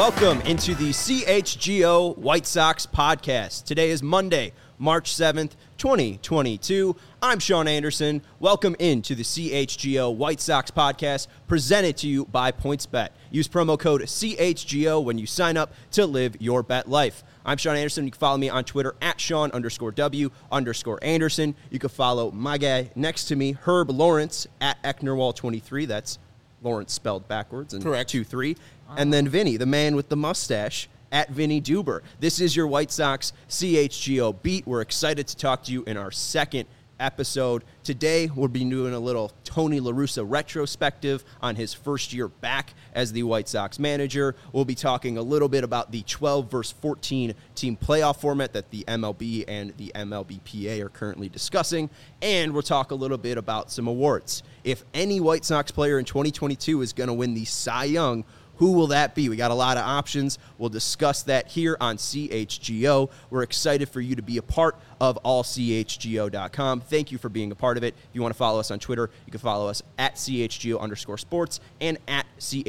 Welcome into the CHGO White Sox podcast. Today is Monday, March 7th, 2022. I'm Sean Anderson. Welcome into the CHGO White Sox podcast presented to you by PointsBet. Use promo code CHGO when you sign up to live your bet life. I'm Sean Anderson. You can follow me on Twitter at Sean_W_Anderson. You can follow my guy next to me, Herb Lawrence, at Ecknerwall23. That's Lawrence spelled backwards and Correct. 2-3. And then Vinny, the man with the mustache, at Vinny Duber. This is your White Sox CHGO beat. We're excited to talk to you in our second episode. Today, we'll be doing a little Tony La Russa retrospective on his first year back as the White Sox manager. We'll be talking a little bit about the 12 versus 14 team playoff format that the MLB and the MLBPA are currently discussing. And we'll talk a little bit about some awards. If any White Sox player in 2022 is going to win the Cy Young, who will that be? We got a lot of options. We'll discuss that here on CHGO. We're excited for you to be a part of allchgo.com. Thank you for being a part of it. If you want to follow us on Twitter, you can follow us at CHGO_sports and at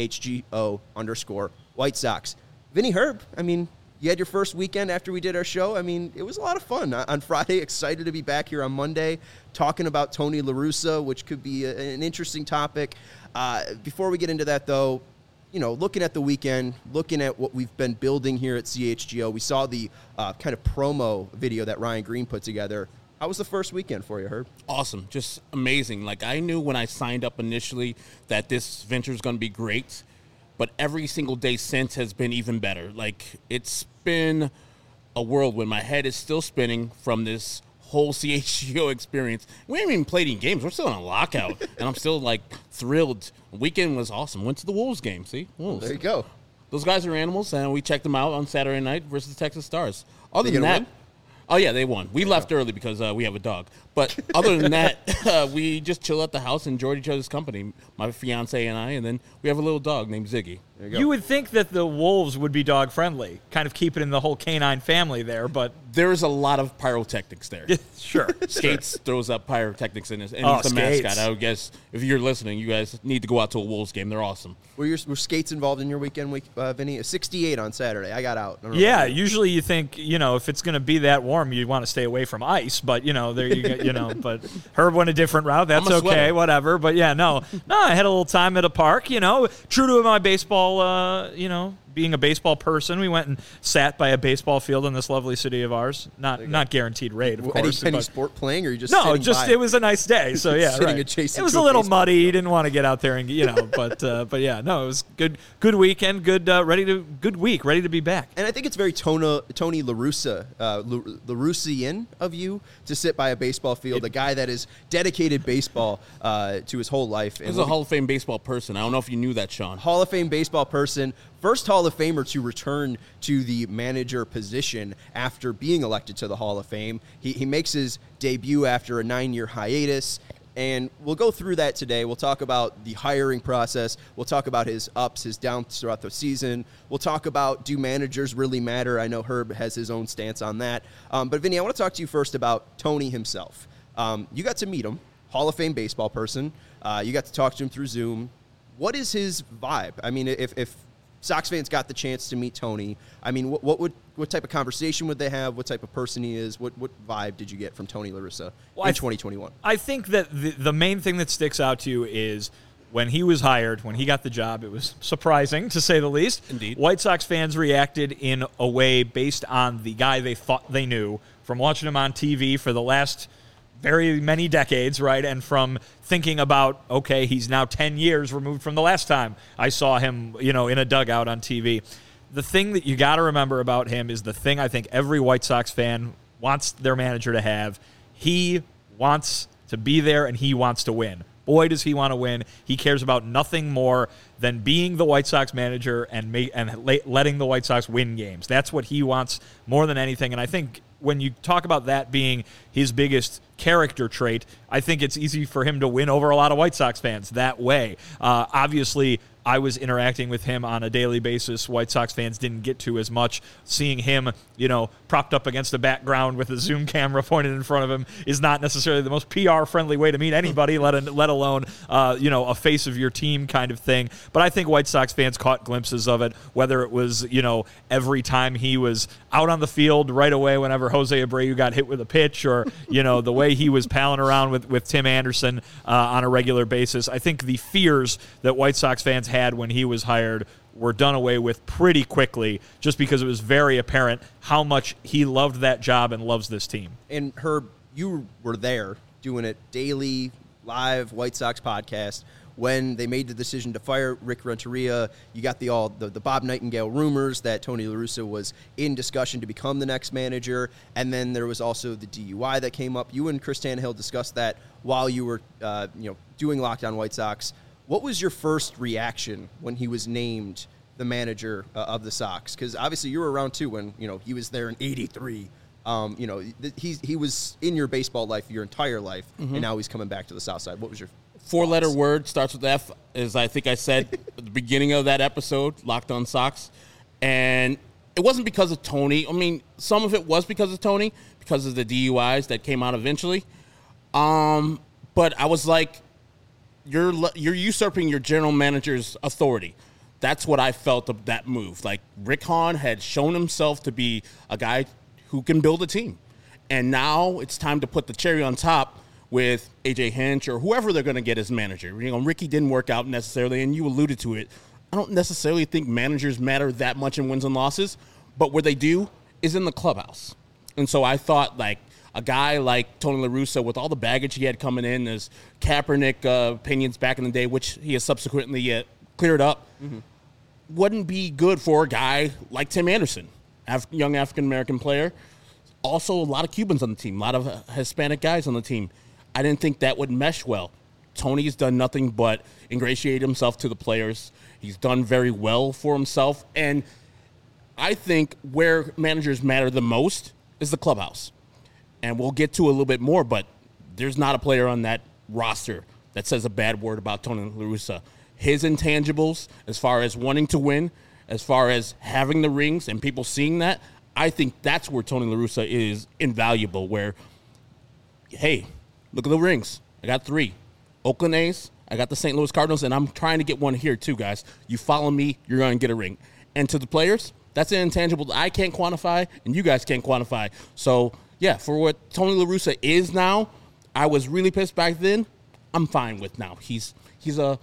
CHGO_White Sox. Vinny, Herb, you had your first weekend after we did our show. It was a lot of fun. On Friday, excited to be back here on Monday talking about Tony La Russa, which could be an interesting topic. Before we get into that, though, looking at the weekend, looking at what we've been building here at CHGO, we saw the kind of promo video that Ryan Green put together. How was the first weekend for you, Herb? Awesome. Just amazing. I knew when I signed up initially that this venture is going to be great, but every single day since has been even better. It's been a whirlwind. My head is still spinning from this whole CHGO experience. We haven't even played any games. We're still in a lockout, and I'm still, thrilled. The weekend was awesome. Went to the Wolves game. See? Wolves. There you go. Those guys are animals, and we checked them out on Saturday night versus the Texas Stars. Other than that, oh, yeah, they won. We left early because we have a dog. But other than that, we just chill at the house and enjoyed each other's company, my fiance and I, and then we have a little dog named Ziggy. There you go. You would think that the Wolves would be dog-friendly, kind of keep it in the whole canine family there, but... There's a lot of pyrotechnics there. Sure. Skates throws up pyrotechnics in this, and Oh, he's the Skates. mascot. I would guess if you're listening, you guys need to go out to a Wolves game. They're awesome. Were Skates involved in your weekend, Vinny? 68 on Saturday. I got out. I don't know Yeah, about you. usually you think, if it's going to be that warm, you want to stay away from ice, but, there you go, but Herb went a different route. That's I'm a okay, sweater. whatever. But, yeah, no, I had a little time at a park, true to my baseball, being a baseball person, we went and sat by a baseball field in this lovely city of ours. Not guaranteed rate, of course. Any but- sport playing, or you just No, sitting just by? it was a nice day. So yeah, Sitting right. adjacent It was to a a little baseball muddy. field. You didn't want to get out there and but yeah, no, it was good weekend, good week, ready to be back. And I think it's very Tony La Russa, LaRussian of you to sit by a baseball field, a guy that has dedicated baseball to his whole life. He's a Hall of Fame baseball person. I don't know if you knew that, Sean. Hall of Fame baseball person, first Hall of Famer to return to the manager position after being elected to the Hall of Fame. He makes his debut after a 9-year hiatus, and we'll go through that today. We'll talk about the hiring process. We'll talk about his ups, his downs throughout the season. We'll talk about, do managers really matter? I know Herb has his own stance on that. But Vinny, I want to talk to you first about Tony himself. You got to meet him, Hall of Fame baseball person. You got to talk to him through Zoom. What is his vibe? If Sox fans got the chance to meet Tony, what type of conversation would they have? What type of person he is? What vibe did you get from Tony La Russa in 2021? I think that the main thing that sticks out to you is when he was hired, when he got the job, it was surprising, to say the least. Indeed. White Sox fans reacted in a way based on the guy they thought they knew from watching him on TV for the last very many decades, right? And from thinking about, okay, he's now 10 years removed from the last time I saw him, in a dugout on TV. The thing that you got to remember about him is the thing I think every White Sox fan wants their manager to have. He wants to be there and he wants to win. Boy, does he want to win. He cares about nothing more than being the White Sox manager and letting the White Sox win games. That's what he wants more than anything. And I think when you talk about that being his biggest character trait, I think it's easy for him to win over a lot of White Sox fans that way. Obviously, I was interacting with him on a daily basis. White Sox fans didn't get to as much. Seeing him, propped up against the background with a Zoom camera pointed in front of him is not necessarily the most PR-friendly way to meet anybody, let alone, a face of your team kind of thing. But I think White Sox fans caught glimpses of it, whether it was, every time he was out on the field right away whenever Jose Abreu got hit with a pitch, or, the way he was palling around with Tim Anderson on a regular basis. I think the fears that White Sox fans had when he was hired were done away with pretty quickly, just because it was very apparent how much he loved that job and loves this team. And Herb, you were there doing it daily, live White Sox podcast when they made the decision to fire Rick Renteria. You got the Bob Nightingale rumors that Tony La Russa was in discussion to become the next manager, and then there was also the DUI that came up. You and Chris Tannehill discussed that while you were doing Locked On White Sox. What was your first reaction when he was named the manager of the Sox? Because obviously you were around too when he was there in '83. He was in your baseball life your entire life, and now he's coming back to the South Side. What was your four-letter word, starts with F, as I think I said at the beginning of that episode, Locked On Sox. And it wasn't because of Tony. I mean, some of it was because of Tony, because of the DUIs that came out eventually. But I was like, you're usurping your general manager's authority. That's what I felt of that move. Like, Rick Hahn had shown himself to be a guy who can build a team. And now it's time to put the cherry on top with A.J. Hinch or whoever they're going to get as manager. Ricky didn't work out necessarily, and you alluded to it. I don't necessarily think managers matter that much in wins and losses, but where they do is in the clubhouse. And so I thought, like, a guy like Tony La Russa, with all the baggage he had coming in, as Kaepernick opinions back in the day, which he has subsequently cleared up, wouldn't be good for a guy like Tim Anderson, young African-American player. Also, a lot of Cubans on the team, a lot of Hispanic guys on the team. I didn't think that would mesh well. Tony's done nothing but ingratiate himself to the players. He's done very well for himself. And I think where managers matter the most is the clubhouse. And we'll get to a little bit more, but there's not a player on that roster that says a bad word about Tony La Russa. His intangibles, as far as wanting to win, as far as having the rings and people seeing that, I think that's where Tony La Russa is invaluable, where, hey, look at the rings. I got 3. Oakland A's, I got the St. Louis Cardinals, and I'm trying to get one here too, guys. You follow me, you're going to get a ring. And to the players, that's an intangible that I can't quantify and you guys can't quantify. So, yeah, for what Tony La Russa is now, I was really pissed back then. I'm fine with now. He's a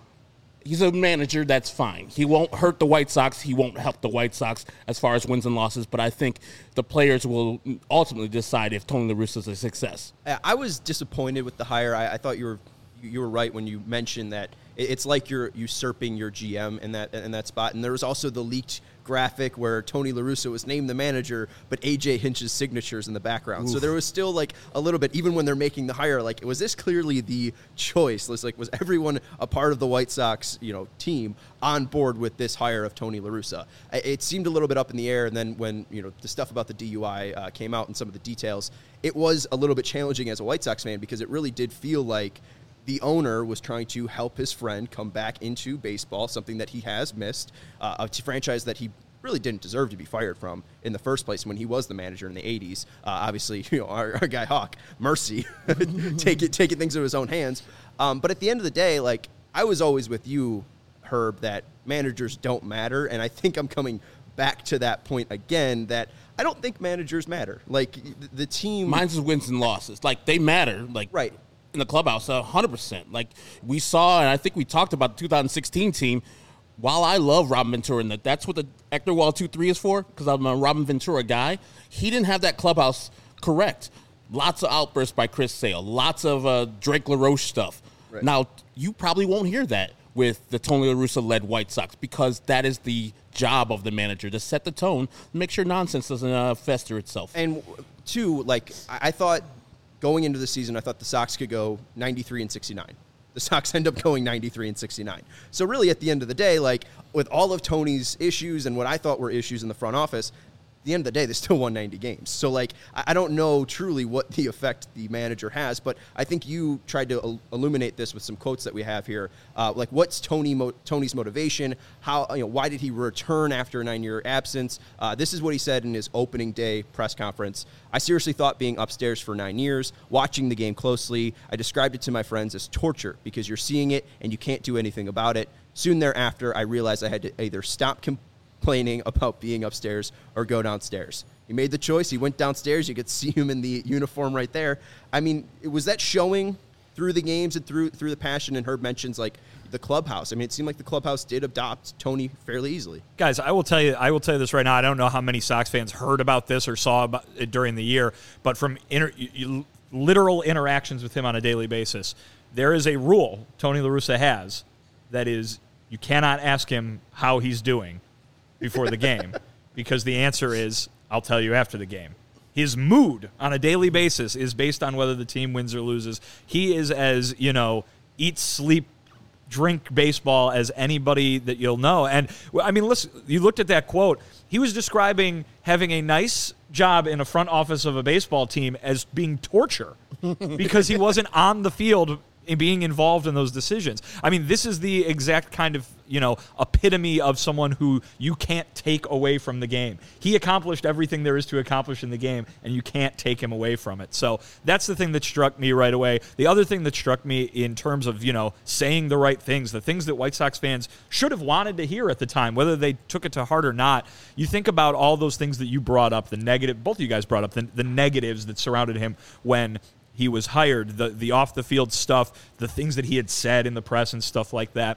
manager that's fine. He won't hurt the White Sox. He won't help the White Sox as far as wins and losses. But I think the players will ultimately decide if Tony La Russa is a success. I was disappointed with the hire. I thought you were right when you mentioned that it's like you're usurping your GM in that spot. And there was also the leaked graphic where Tony La Russa was named the manager, but A.J. Hinch's signature's in the background. Oof. So there was still like a little bit, even when they're making the hire, like, was this clearly the choice? Was everyone a part of the White Sox, team on board with this hire of Tony La Russa? It seemed a little bit up in the air, and then when the stuff about the DUI came out and some of the details, it was a little bit challenging as a White Sox fan, because it really did feel like the owner was trying to help his friend come back into baseball, something that he has missed, a franchise that he really didn't deserve to be fired from in the first place when he was the manager in the 80s. Obviously, our guy Hawk, mercy, taking things into his own hands. But at the end of the day, like, I was always with you, Herb, that managers don't matter, and I think I'm coming back to that point again, that I don't think managers matter. Like, the team... Mine's is wins and losses. Like, they matter. Like, right. In the clubhouse, 100%. Like, we saw, and I think we talked about the 2016 team. While I love Robin Ventura, and that's what the Ector Wall 2-3 is for, because I'm a Robin Ventura guy, he didn't have that clubhouse correct. Lots of outbursts by Chris Sale, lots of Drake LaRoche stuff. Right. Now, you probably won't hear that with the Tony La Russa-led White Sox, because that is the job of the manager, to set the tone, make sure nonsense doesn't fester itself. And, two, like, I thought... Going into the season, I thought the Sox could go 93-69. The Sox end up going 93-69. So really, at the end of the day, like, with all of Tony's issues and what I thought were issues in the front office, the end of the day, they still won 90 games. So, like, I don't know truly what the effect the manager has, but I think you tried to illuminate this with some quotes that we have here. Like, what's Tony's motivation? How, why did he return after a 9-year absence? This is what he said in his opening day press conference. I seriously thought being upstairs for 9 years, watching the game closely, I described it to my friends as torture because you're seeing it and you can't do anything about it. Soon thereafter, I realized I had to either stop complaining about being upstairs or go downstairs. He made the choice. He went downstairs. You could see him in the uniform right there. I mean, was that showing through the games and through the passion? And Herb mentions, like, the clubhouse. I mean, it seemed like the clubhouse did adopt Tony fairly easily. Guys, I will tell you this right now. I don't know how many Sox fans heard about this or saw about it during the year, but from literal interactions with him on a daily basis, there is a rule Tony La Russa has that is you cannot ask him how he's doing before the game because the answer is, I'll tell you after the game. His mood on a daily basis is based on whether the team wins or loses. He is as, eat, sleep, drink baseball as anybody that you'll know. And, I mean, listen, you looked at that quote. He was describing having a nice job in a front office of a baseball team as being torture because he wasn't on the field being involved in those decisions. I mean, this is the exact kind of, epitome of someone who you can't take away from the game. He accomplished everything there is to accomplish in the game, and you can't take him away from it. So that's the thing that struck me right away. The other thing that struck me in terms of, saying the right things, the things that White Sox fans should have wanted to hear at the time, whether they took it to heart or not, you think about all those things that you brought up, the negative, both of you guys brought up, the negatives that surrounded him when he was hired, the off-the-field stuff, the things that he had said in the press and stuff like that.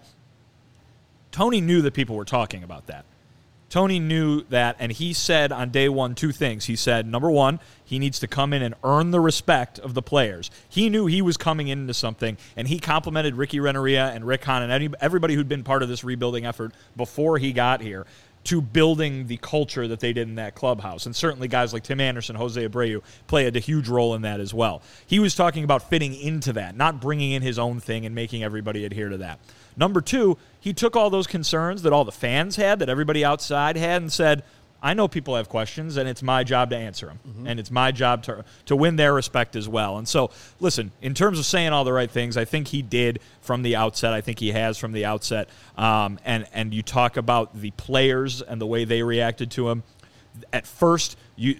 Tony knew that people were talking about that. Tony knew that, and he said on day one 2 things. He said, number one, he needs to come in and earn the respect of the players. He knew he was coming into something, and he complimented Ricky Renneria and Rick Hahn and everybody who'd been part of this rebuilding effort before he got here to building the culture that they did in that clubhouse. And certainly guys like Tim Anderson, Jose Abreu played a huge role in that as well. He was talking about fitting into that, not bringing in his own thing and making everybody adhere to that. Number 2, he took all those concerns that all the fans had, that everybody outside had, and said, I know people have questions, and it's my job to answer them. Mm-hmm. And it's my job to win their respect as well. And so, listen, in terms of saying all the right things, I think he did from the outset. I think he has from the outset. And you talk about the players and the way they reacted to him. At first,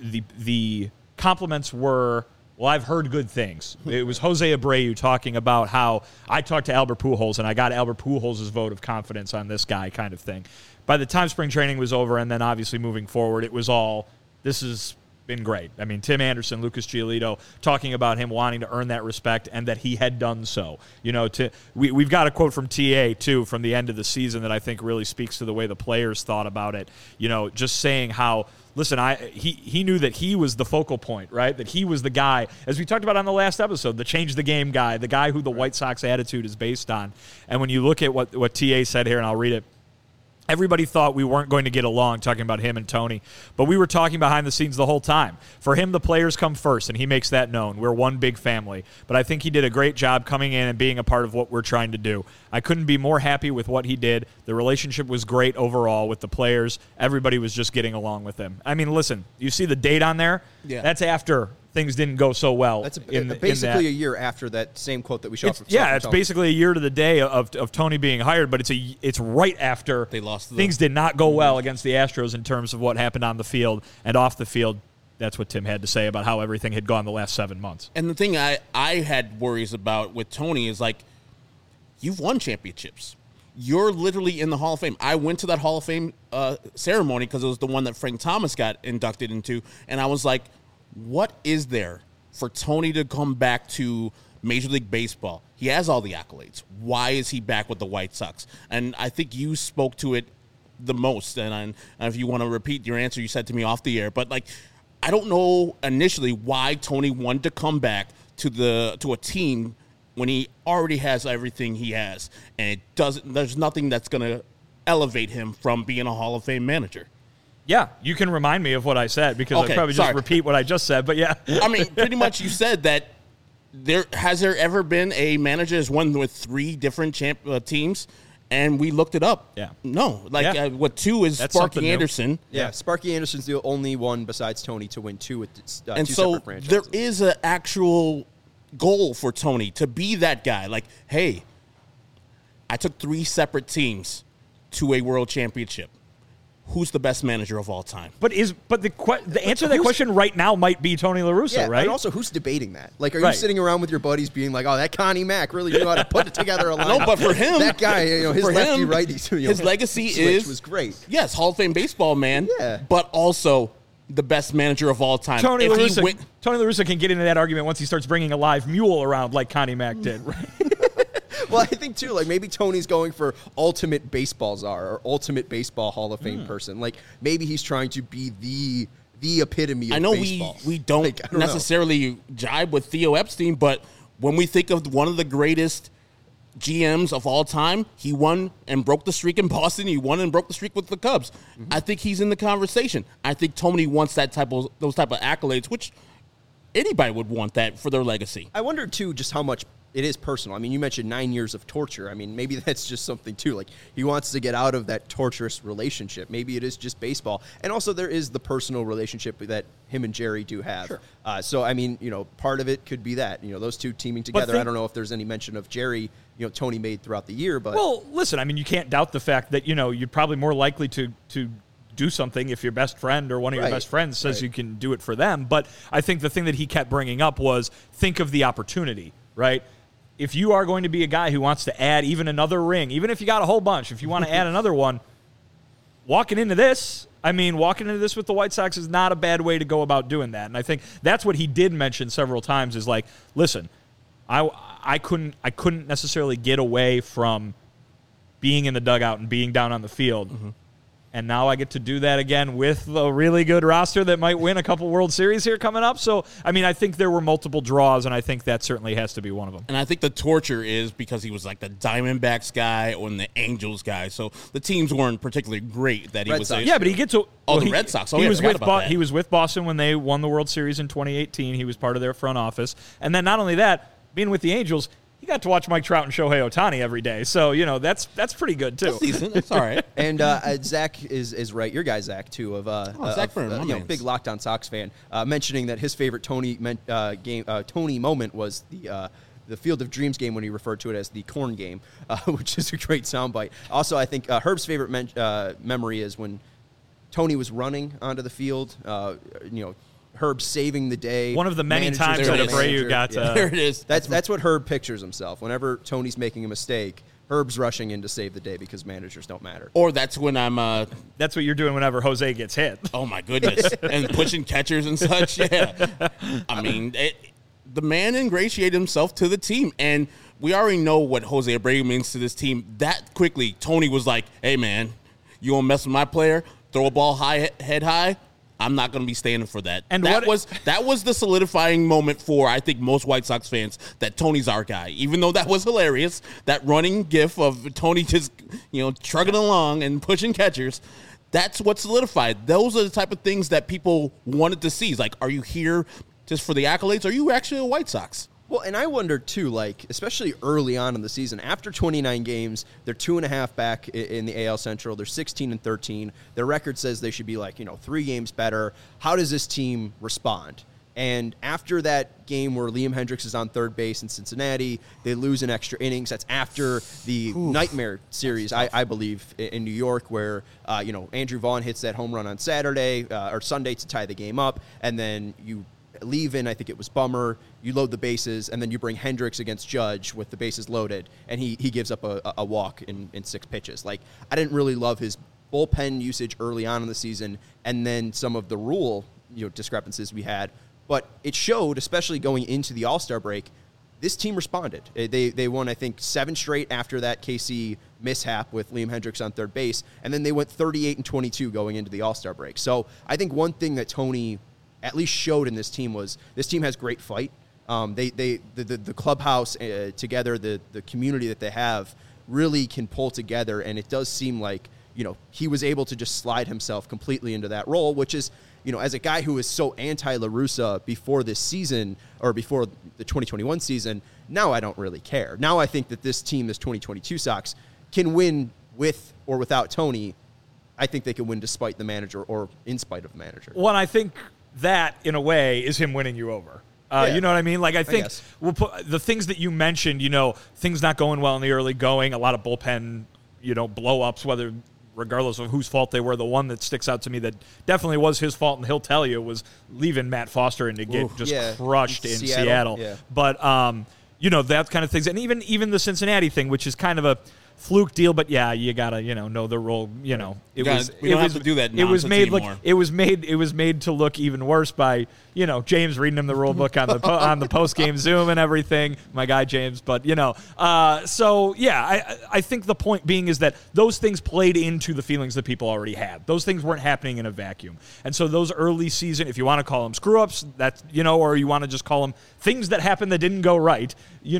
the compliments were, well, I've heard good things. It was Jose Abreu talking about how I talked to Albert Pujols, and I got Albert Pujols' vote of confidence on this guy kind of thing. By the time spring training was over and then obviously moving forward, it was all, this has been great. I mean, Tim Anderson, Lucas Giolito, talking about him wanting to earn that respect and that he had done so. We've got a quote from TA, too, from the end of the season that I think really speaks to the way the players thought about it. Just saying how, listen, he knew that he was the focal point, right? That he was the guy, as we talked about on the last episode, the change the game guy, the guy who the White Sox attitude is based on. And when you look at what TA said here, and I'll read it, everybody thought we weren't going to get along, talking about him and Tony, but we were talking behind the scenes the whole time. For him, the players come first, and he makes that known. We're one big family. But I think he did a great job coming in and being a part of what we're trying to do. I couldn't be more happy with what he did. The relationship was great overall with the players. Everybody was just getting along with him. I mean, listen, you see the date on there? Yeah. That's after things didn't go so well. That's basically a year after that same quote that we shot. It's basically a year to the day of Tony being hired, but it's right after they lost. Things did not go well against the Astros in terms of what happened on the field and off the field. That's what Tim had to say about how everything had gone the last 7 months. And the thing I had worries about with Tony is, like, you've won championships. You're literally in the Hall of Fame. I went to that Hall of Fame ceremony because it was the one that Frank Thomas got inducted into, and I was like, what is there for Tony to come back to Major League Baseball? He has all the accolades. Why is he back with the White Sox? And I think you spoke to it the most. And if you want to repeat your answer you said to me off the air, but, like, I don't know initially why Tony wanted to come back to a team when he already has everything he has, and there's nothing that's going to elevate him from being a Hall of Fame manager. Yeah, you can remind me of what I said because I probably just repeat what I just said, but yeah. I mean, pretty much you said that has there ever been a manager who's won with 3 different teams And we looked it up. Yeah. No. Yeah. What 2 is That's something Sparky new. Anderson. Yeah, Sparky Anderson's the only one besides Tony to win 2 with And two so separate franchises. there is an actual goal for Tony to be that guy. Like, hey, I took 3 separate teams to a world championship. Who's the best manager of all time? But the answer to that question right now might be Tony La Russa, Yeah, right? and also, who's debating that? Like, are you Right. sitting around with your buddies being like, "Oh, that Connie Mack really knew how to put together a line"? No, but for him, that guy, his for lefty him, righty, his legacy switch was great. Yes, Hall of Fame baseball man. Yeah. But also the best manager of all time. Tony If La he Russa, win- Tony La Russa can get into that argument once he starts bringing a live mule around like Connie Mack did. Right? Well, I think too, like maybe Tony's going for ultimate baseball czar or ultimate baseball Hall of Fame person. Like maybe he's trying to be the epitome of I know baseball. we don't, Like, I don't know. necessarily jibe with Theo Epstein, but when we think of one of the greatest GMs of all time, he won and broke the streak in Boston. He won and broke the streak with the Cubs. I think he's in the conversation. I think Tony wants those type of accolades, which anybody would want that for their legacy. I wonder too just how much it is personal. I mean, you mentioned 9 years of torture. I mean, maybe that's just something too. Like he wants to get out of that torturous relationship. Maybe it is just baseball, and also there is the personal relationship that him and Jerry do have. Sure. So I mean, part of it could be that those two teaming together. I think- don't know if there's any mention of Jerry, Tony made throughout the year, but Well, listen, I mean, you can't doubt the fact that, you're probably more likely to do something if your best friend or one of your Right. best friends says Right. you can do it for them. But I think the thing that he kept bringing up was think of the opportunity, right? If you are going to be a guy who wants to add even another ring, even if you got a whole bunch, if you want to add another one, walking into this with the White Sox is not a bad way to go about doing that. And I think that's what he did mention several times is like, listen, I couldn't necessarily get away from being in the dugout and being down on the field. Mm-hmm. And now I get to do that again with a really good roster that might win a couple World Series here coming up. So, I mean, I think there were multiple draws, and I think that certainly has to be one of them. And I think the torture is because he was like the Diamondbacks guy or the Angels guy. So the teams weren't particularly great that he Red was Sox. a- Yeah, but he gets to the Red Sox. Oh, he yeah, I was forgot with about that. he was with Boston when they won the World Series in 2018. He was part of their front office, and then not only that, being with the Angels, he got to watch Mike Trout and Shohei Ohtani every day. So that's pretty good too. That's decent. That's all right. And Zach is right. Your guy Zach too of Zach Byrne, my mans. big Locked On Sox fan, mentioning that his favorite Tony moment was the Field of Dreams game when he referred to it as the corn game, which is a great soundbite. Also, I think Herb's favorite memory is when Tony was running onto the field. Herb saving the day. One of the many manager times to that manager. Abreu got Yeah. There it is. That's what Herb pictures himself. Whenever Tony's making a mistake, Herb's rushing in to save the day because managers don't matter. Or that's when I'm That's what you're doing whenever Jose gets hit. oh my goodness, and pushing catchers and such. Yeah, I mean, the man ingratiated himself to the team, and we already know what Jose Abreu means to this team. That quickly, Tony was like, "Hey, man, you want to mess with my player? Throw a ball high, head high. I'm not going to be standing for that." And that was the solidifying moment for, I think, most White Sox fans that Tony's our guy. Even though that was hilarious, that running gif of Tony just trugging along and pushing catchers. That's what solidified. Those are the type of things that people wanted to see. It's like, are you here just for the accolades? Are you actually a White Sox? Well, and I wonder, too, like, especially early on in the season, after 29 games, they're 2.5 back in the AL Central. They're 16-13. Their record says they should be, 3 games better. How does this team respond? And after that game where Liam Hendricks is on third base in Cincinnati, they lose in extra innings. That's after the nightmare series, I believe, in New York, where, Andrew Vaughn hits that home run on Saturday or Sunday to tie the game up, and then you leave in, I think it was Bummer, you load the bases, and then you bring Hendricks against Judge with the bases loaded, and he gives up a walk in 6 pitches. Like, I didn't really love his bullpen usage early on in the season, and then some of the rule discrepancies we had. But it showed, especially going into the All-Star break, this team responded. They won, I think, 7 straight after that KC mishap with Liam Hendricks on third base, and then they went 38-22 going into the All-Star break. So I think one thing that Tony at least showed in this team was this team has great fight. The clubhouse together, the community that they have really can pull together, and it does seem like he was able to just slide himself completely into that role, which is as a guy who was so anti-La Russa before this season or before the 2021 season, now I don't really care. Now I think that this team, this 2022 Sox, can win with or without Tony. I think they can win despite the manager or in spite of the manager. Well, I think that, in a way, is him winning you over. You know what I mean? Like, I think we'll put the things that you mentioned, things not going well in the early going, a lot of bullpen, blow-ups, regardless of whose fault they were. The one that sticks out to me that definitely was his fault, and he'll tell you, was leaving Matt Foster and to get crushed in Seattle. Yeah. But, that kind of things. And even the Cincinnati thing, which is kind of a fluke deal, but you gotta know the role. We don't have to do that. It was made anymore. it was made to look even worse by James reading him the rule book on the on the post game Zoom and everything. My guy James, but I think the point being is that those things played into the feelings that people already had. Those things weren't happening in a vacuum, and so those early season, if you want to call them screw ups, that's or you want to just call them things that happened that didn't go right.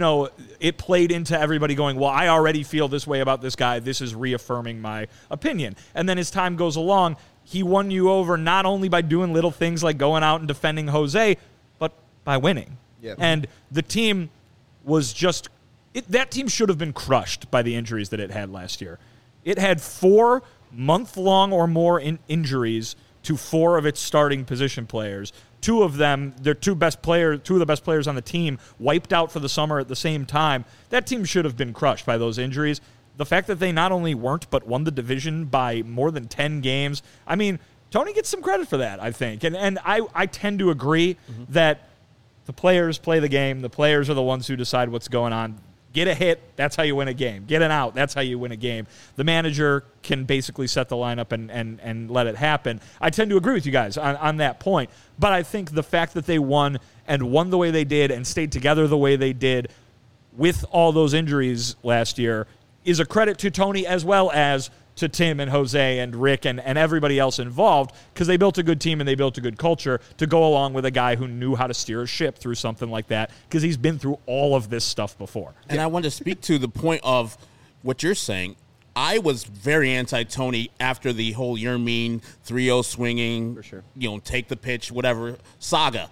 It played into everybody going, well, I already feel this way about this guy. This is reaffirming my opinion. And then as time goes along, he won you over not only by doing little things like going out and defending Jose, but by winning. Yep. And the team was just that team should have been crushed by the injuries that it had last year. It had 4 month-long or more injuries to 4 of its starting position players. 2 of them, their 2 of the best players on the team, wiped out for the summer at the same time. That team should have been crushed by those injuries. The fact that they not only weren't, but won the division by more than 10 games. I mean, Tony gets some credit for that, I think. And I tend to agree that the players play the game. The players are the ones who decide what's going on. Get a hit, that's how you win a game. Get an out, that's how you win a game. The manager can basically set the lineup and let it happen. I tend to agree with you guys on that point. But I think the fact that they won the way they did and stayed together the way they did with all those injuries last year is a credit to Tony as well as to Tim and Jose and Rick and everybody else involved, because they built a good team and they built a good culture to go along with a guy who knew how to steer a ship through something like that, because he's been through all of this stuff before. And I want to speak to the point of what you're saying. I was very anti-Tony after the whole Yermin 3-0 swinging, for sure. Take the pitch, whatever, saga.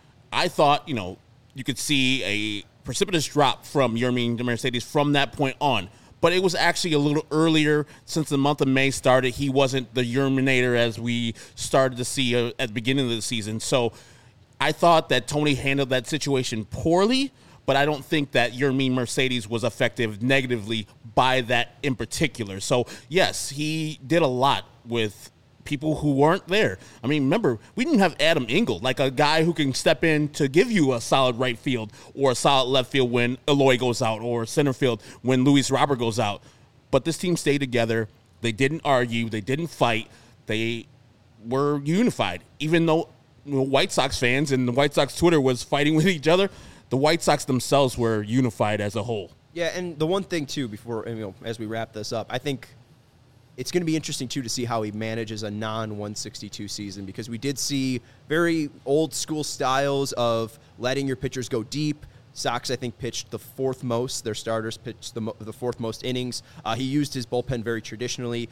I thought, you could see a precipitous drop from Yermin Mercedes from that point on. But it was actually a little earlier. Since the month of May started, he wasn't the Yerminator as we started to see at the beginning of the season. So I thought that Tony handled that situation poorly, but I don't think that Yermin Mercedes was affected negatively by that in particular. So, yes, he did a lot with people who weren't there. I mean, remember, we didn't have Adam Engel, like a guy who can step in to give you a solid right field or a solid left field when Eloy goes out, or center field when Luis Robert goes out. But this team stayed together. They didn't argue. They didn't fight. They were unified. Even though White Sox fans and the White Sox Twitter was fighting with each other, the White Sox themselves were unified as a whole. Yeah, and the one thing, too, before as we wrap this up, I think it's going to be interesting, too, to see how he manages a non-162 season, because we did see very old-school styles of letting your pitchers go deep. Sox, I think, pitched the 4th most. Their starters pitched the 4th most innings. He used his bullpen very traditionally,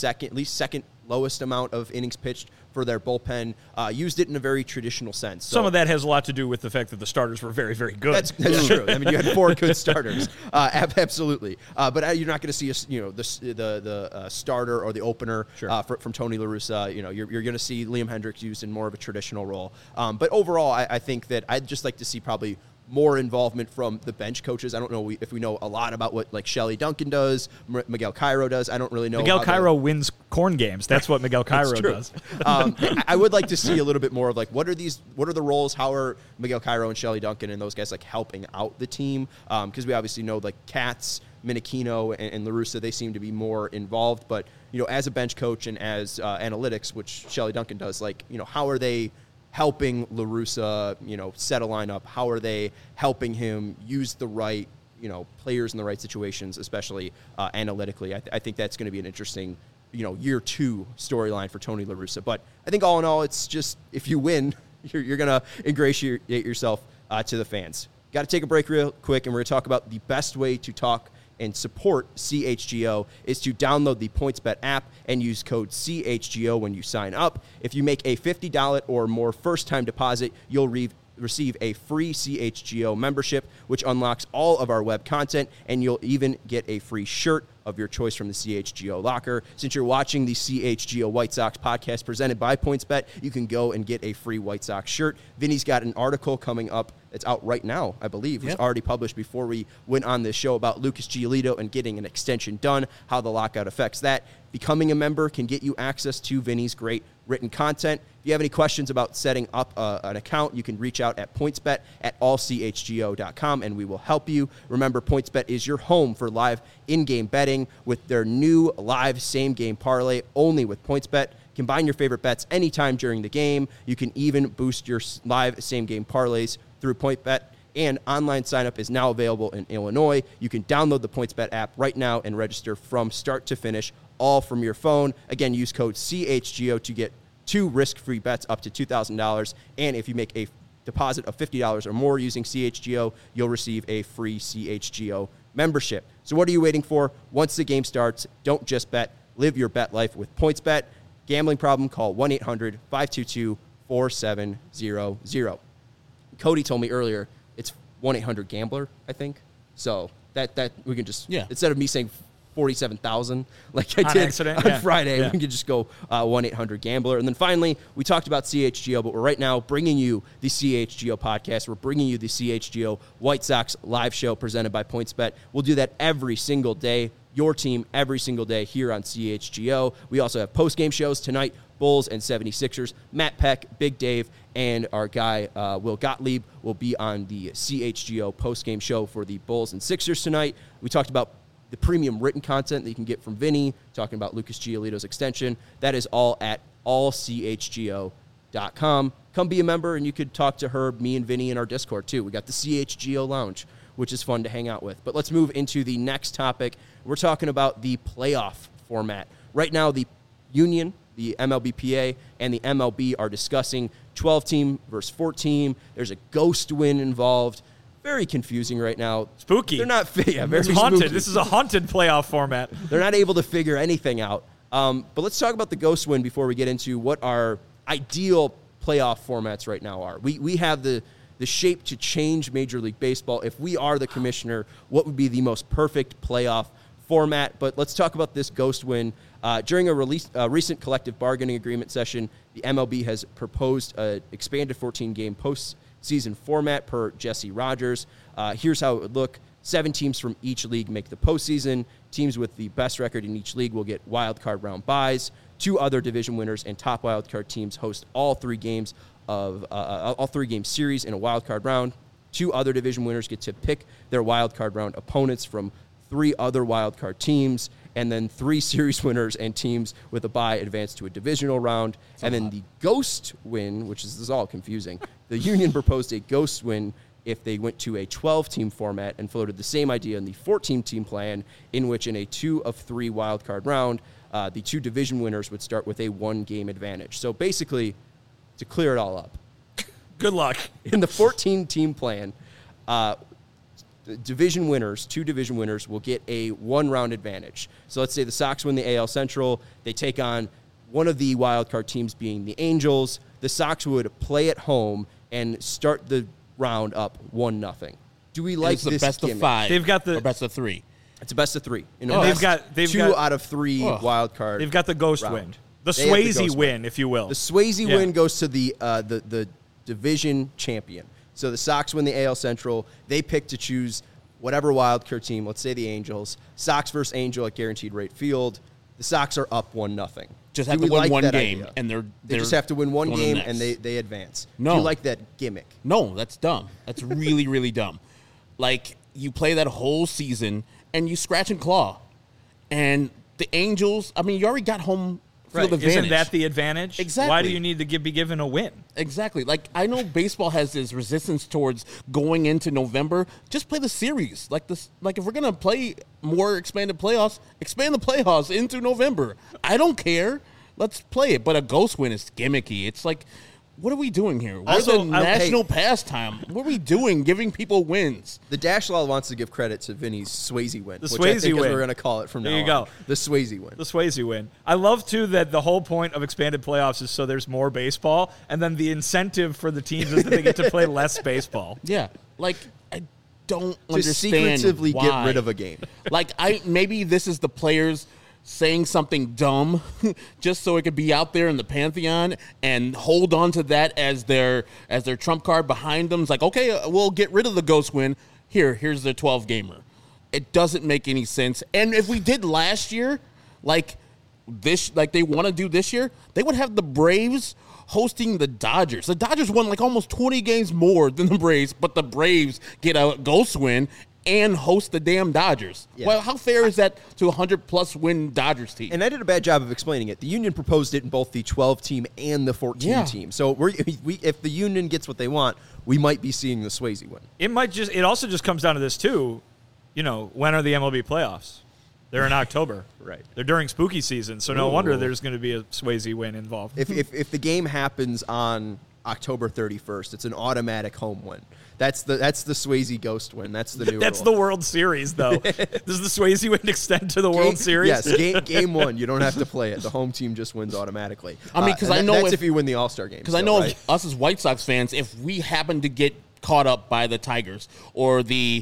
second lowest amount of innings pitched for their bullpen. Used it in a very traditional sense. So, some of that has a lot to do with the fact that the starters were very, very good. That's true. I mean, you had 4 good starters, absolutely. But you're not going to see the starter or the opener from Tony La Russa. You're going to see Liam Hendriks used in more of a traditional role. But overall, I think that I'd just like to see probably more involvement from the bench coaches. I don't know if we know a lot about what Shelly Duncan does, Miguel Cairo does. I don't really know. Miguel Cairo wins corn games. That's what Miguel Cairo does. I would like to see a little bit more of what are the roles? How are Miguel Cairo and Shelly Duncan and those guys helping out the team? Because we obviously know Katz, Minichino, and La Russa, they seem to be more involved. But as a bench coach and as analytics, which Shelly Duncan does, how are they helping La Russa, set a lineup? How are they helping him use the right, players in the right situations, especially analytically? I think that's going to be an interesting, year 2 storyline for Tony La Russa. But I think all in all, it's just, if you win, you're going to ingratiate yourself to the fans. Got to take a break real quick, and we're going to talk about the best way to talk and support CHGO is to download the PointsBet app and use code CHGO when you sign up. If you make a $50 or more first-time deposit, you'll receive a free CHGO membership, which unlocks all of our web content, and you'll even get a free shirt of your choice from the CHGO locker. Since you're watching the CHGO White Sox podcast presented by PointsBet, you can go and get a free White Sox shirt. Vinny's got an article coming up. It's out right now, I believe. It was already published before we went on this show about Lucas Giolito and getting an extension done, how the lockout affects that. Becoming a member can get you access to Vinny's great written content. If you have any questions about setting up an account, you can reach out at pointsbet@allchgo.com, and we will help you. Remember, PointsBet is your home for live in-game betting with their new live same-game parlay only with PointsBet. Combine your favorite bets anytime during the game. You can even boost your live same-game parlays through PointsBet, and online sign-up is now available in Illinois. You can download the PointsBet app right now and register from start to finish, all from your phone. Again, use code CHGO to get 2 risk-free bets up to $2,000, and if you make a deposit of $50 or more using CHGO, you'll receive a free CHGO membership. So what are you waiting for? Once the game starts, don't just bet. Live your bet life with PointsBet. Gambling problem? Call 1-800-522-4700. Cody told me earlier it's 1-800-GAMBLER, I think. So that we can just, instead of me saying 47,000 like I did on Friday, we can just go 1-800-GAMBLER. And then finally, we talked about CHGO, but we're right now bringing you the CHGO podcast. We're bringing you the CHGO White Sox live show presented by PointsBet. We'll do that every single day, your team every single day here on CHGO. We also have post-game shows tonight, Bulls and 76ers. Matt Peck, Big Dave, and our guy Will Gottlieb will be on the CHGO post-game show for the Bulls and Sixers tonight. We talked about the premium written content that you can get from Vinny, talking about Lucas Giolito's extension. That is all at allchgo.com. Come be a member, and you could talk to Herb, me, and Vinny in our Discord, too. We got the CHGO Lounge, which is fun to hang out with. But let's move into the next topic. We're talking about the playoff format. Right now, the Union, the MLBPA, and the MLB are discussing 12-team versus 14. There's a ghost win involved. Very confusing right now. Spooky. They're not very it's haunted. Spooky. This is a haunted playoff format. They're not able to figure anything out. But let's talk about the ghost win before we get into what our ideal playoff formats right now are. We have the shape to change Major League Baseball. If we are the commissioner, what would be the most perfect playoff format? But let's talk about this ghost win. During a recent collective bargaining agreement session, the MLB has proposed an expanded 14-game postseason format per Jesse Rogers. Here's how it would look. 7 teams from each league make the postseason. Teams with the best record in each league will get wild card round byes. 2 other division winners and top wild card teams host all 3 games of all 3-game series in a wild card round. 2 other division winners get to pick their wild card round opponents from 3 other wild card teams, and then 3 series winners and teams with a bye advance to a divisional round. And then the ghost win, which is this is all confusing. The Union proposed a ghost win if they went to a 12-team format and floated the same idea in the 14-team plan, in which in a 2 of 3 wild card round, the 2 division winners would start with a 1-game advantage. So basically, to clear it all up, good luck. In the 14-team plan, division winners, 2 division winners, will get a 1-round advantage. So let's say the Sox win the AL Central. They take on one of the wild card teams being the Angels. The Sox would play at home and start the round up 1-0. Do we like this best gimmick? of 5? They've got the or best of 3. It's a best of 3. And they've got 2 out of 3 wild card. They've got the ghost round. win, the They have the Swayze ghost win, if you will. The Swayze win goes to the division champion. So the Sox win the AL Central. They pick to choose whatever wild card team. Let's say the Angels. Sox versus Angel at Guaranteed Rate Field. The Sox are up 1-0. Just have to win one game, idea? and they just have to win one game, next. and they advance. No. Do you like that gimmick? No, that's dumb. That's really, really dumb. Like, you play that whole season, and you scratch and claw. And the Angels, I mean, you already got home field advantage. Isn't that the advantage? Exactly. Why do you need to be given a win? Exactly. Like, I know baseball has this resistance towards going into November. Just play the series. Like if we're going to play more expanded playoffs, expand the playoffs into November. I don't care. Let's play it. But a ghost win is gimmicky. It's like what are we doing here? We're Also, the national pastime. What are we doing giving people wins? The Dash Law wants to give credit to Vinny's Swayze win, The which Swayze I think win. is we're going to call it from now There you on. go. The Swayze win. The Swayze win. I love, too, that the whole point of expanded playoffs is so there's more baseball, and then the incentive for the teams is that they get to play less baseball. Yeah, like I don't to understand secretively why. get rid of a game. Like maybe this is the players saying something dumb just so it could be out there in the pantheon and hold on to that as their trump card behind them. It's like, okay, we'll get rid of the ghost win. Here's the 12 gamer. It doesn't make any sense. And if we did last year, like they want to do this year, they would have the Braves hosting the Dodgers. The Dodgers won like almost 20 games more than the Braves, but the Braves get a ghost win and host the damn Dodgers. Yeah. Well, how fair is that to a 100-plus win Dodgers team? And I did a bad job of explaining it. The Union proposed it in both the 12-team and the 14-team. So if the Union gets what they want, we might be seeing the Swayze win. It also just comes down to this, too. You know, when are the MLB playoffs? They're in October. Right. They're during spooky season, so no wonder there's going to be a Swayze win involved. If the game happens on October 31st, it's an automatic home win. That's the Swayze ghost win. That's the new That's rule. the World Series, though. Does the Swayze win extend to the World Series? Yes, game one. You don't have to play it. The home team just wins automatically. I mean, 'cause I know that's if- if you win the All-Star game. Because I know of us as White Sox fans, if we happen to get caught up by the Tigers or the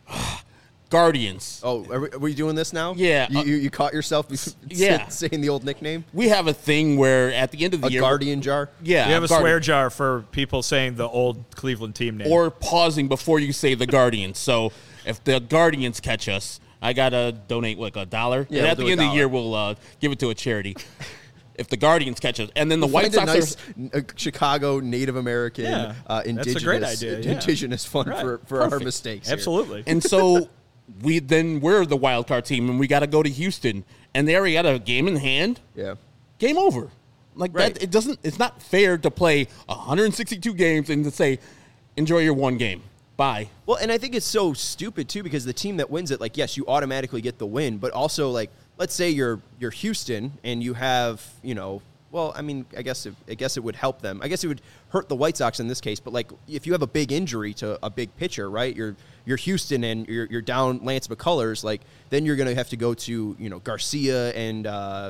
Guardians, Oh, are we doing this now? Yeah. You caught yourself Yeah. saying the old nickname? we have a thing where at the end of the A year, Guardian jar? yeah, We have a Guardian. swear jar for people saying the old Cleveland team name. or pausing before you say the Guardians. So if the Guardians catch us, I gotta donate like $1. Yeah, and at we'll the do end of the $1. year, we'll give it to a charity. If the Guardians catch us, and then the White Find Sox a Chicago Native American, Yeah. That's a indigenous, great idea, yeah. indigenous fund Right. for our Perfect. mistakes. here. Absolutely. And so we're the wild card team, and we got to go to Houston, and they already got a game in hand. Yeah. Game over. Like Right. that, it's not fair to play 162 games and to say, enjoy your one game. Bye. Well, and I think it's so stupid too because the team that wins it, like, yes, you automatically get the win, but also like, let's say you're Houston and you have, well, I mean, I guess it would help them. I guess it would hurt the White Sox in this case, but like if you have a big injury to a big pitcher, right? You're Houston and you're down Lance McCullers, like then you're going to have to go to Garcia and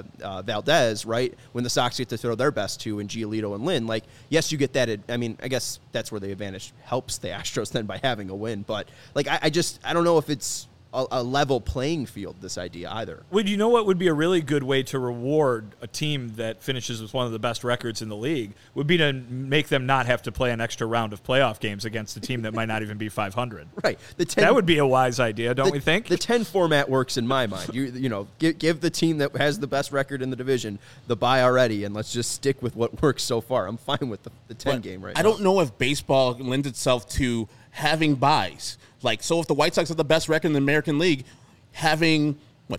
Valdez, right? When the Sox get to throw their best two in Giolito and Lynn, like yes, you get that. I mean, I guess that's where the advantage helps the Astros then by having a win, but like I don't know if it's a level playing field, this idea either. Well, you know what would be a really good way to reward a team that finishes with one of the best records in the league would be to make them not have to play an extra round of playoff games against a team that might not even be 500. Right. That would be a wise idea, don't we think? The 10 format works in my mind. Give the team that has the best record in the division the bye already, and let's just stick with what works so far. I'm fine with the 10 game right now. I don't know if baseball lends itself to having buys. Like, so if the White Sox have the best record in the American League, having,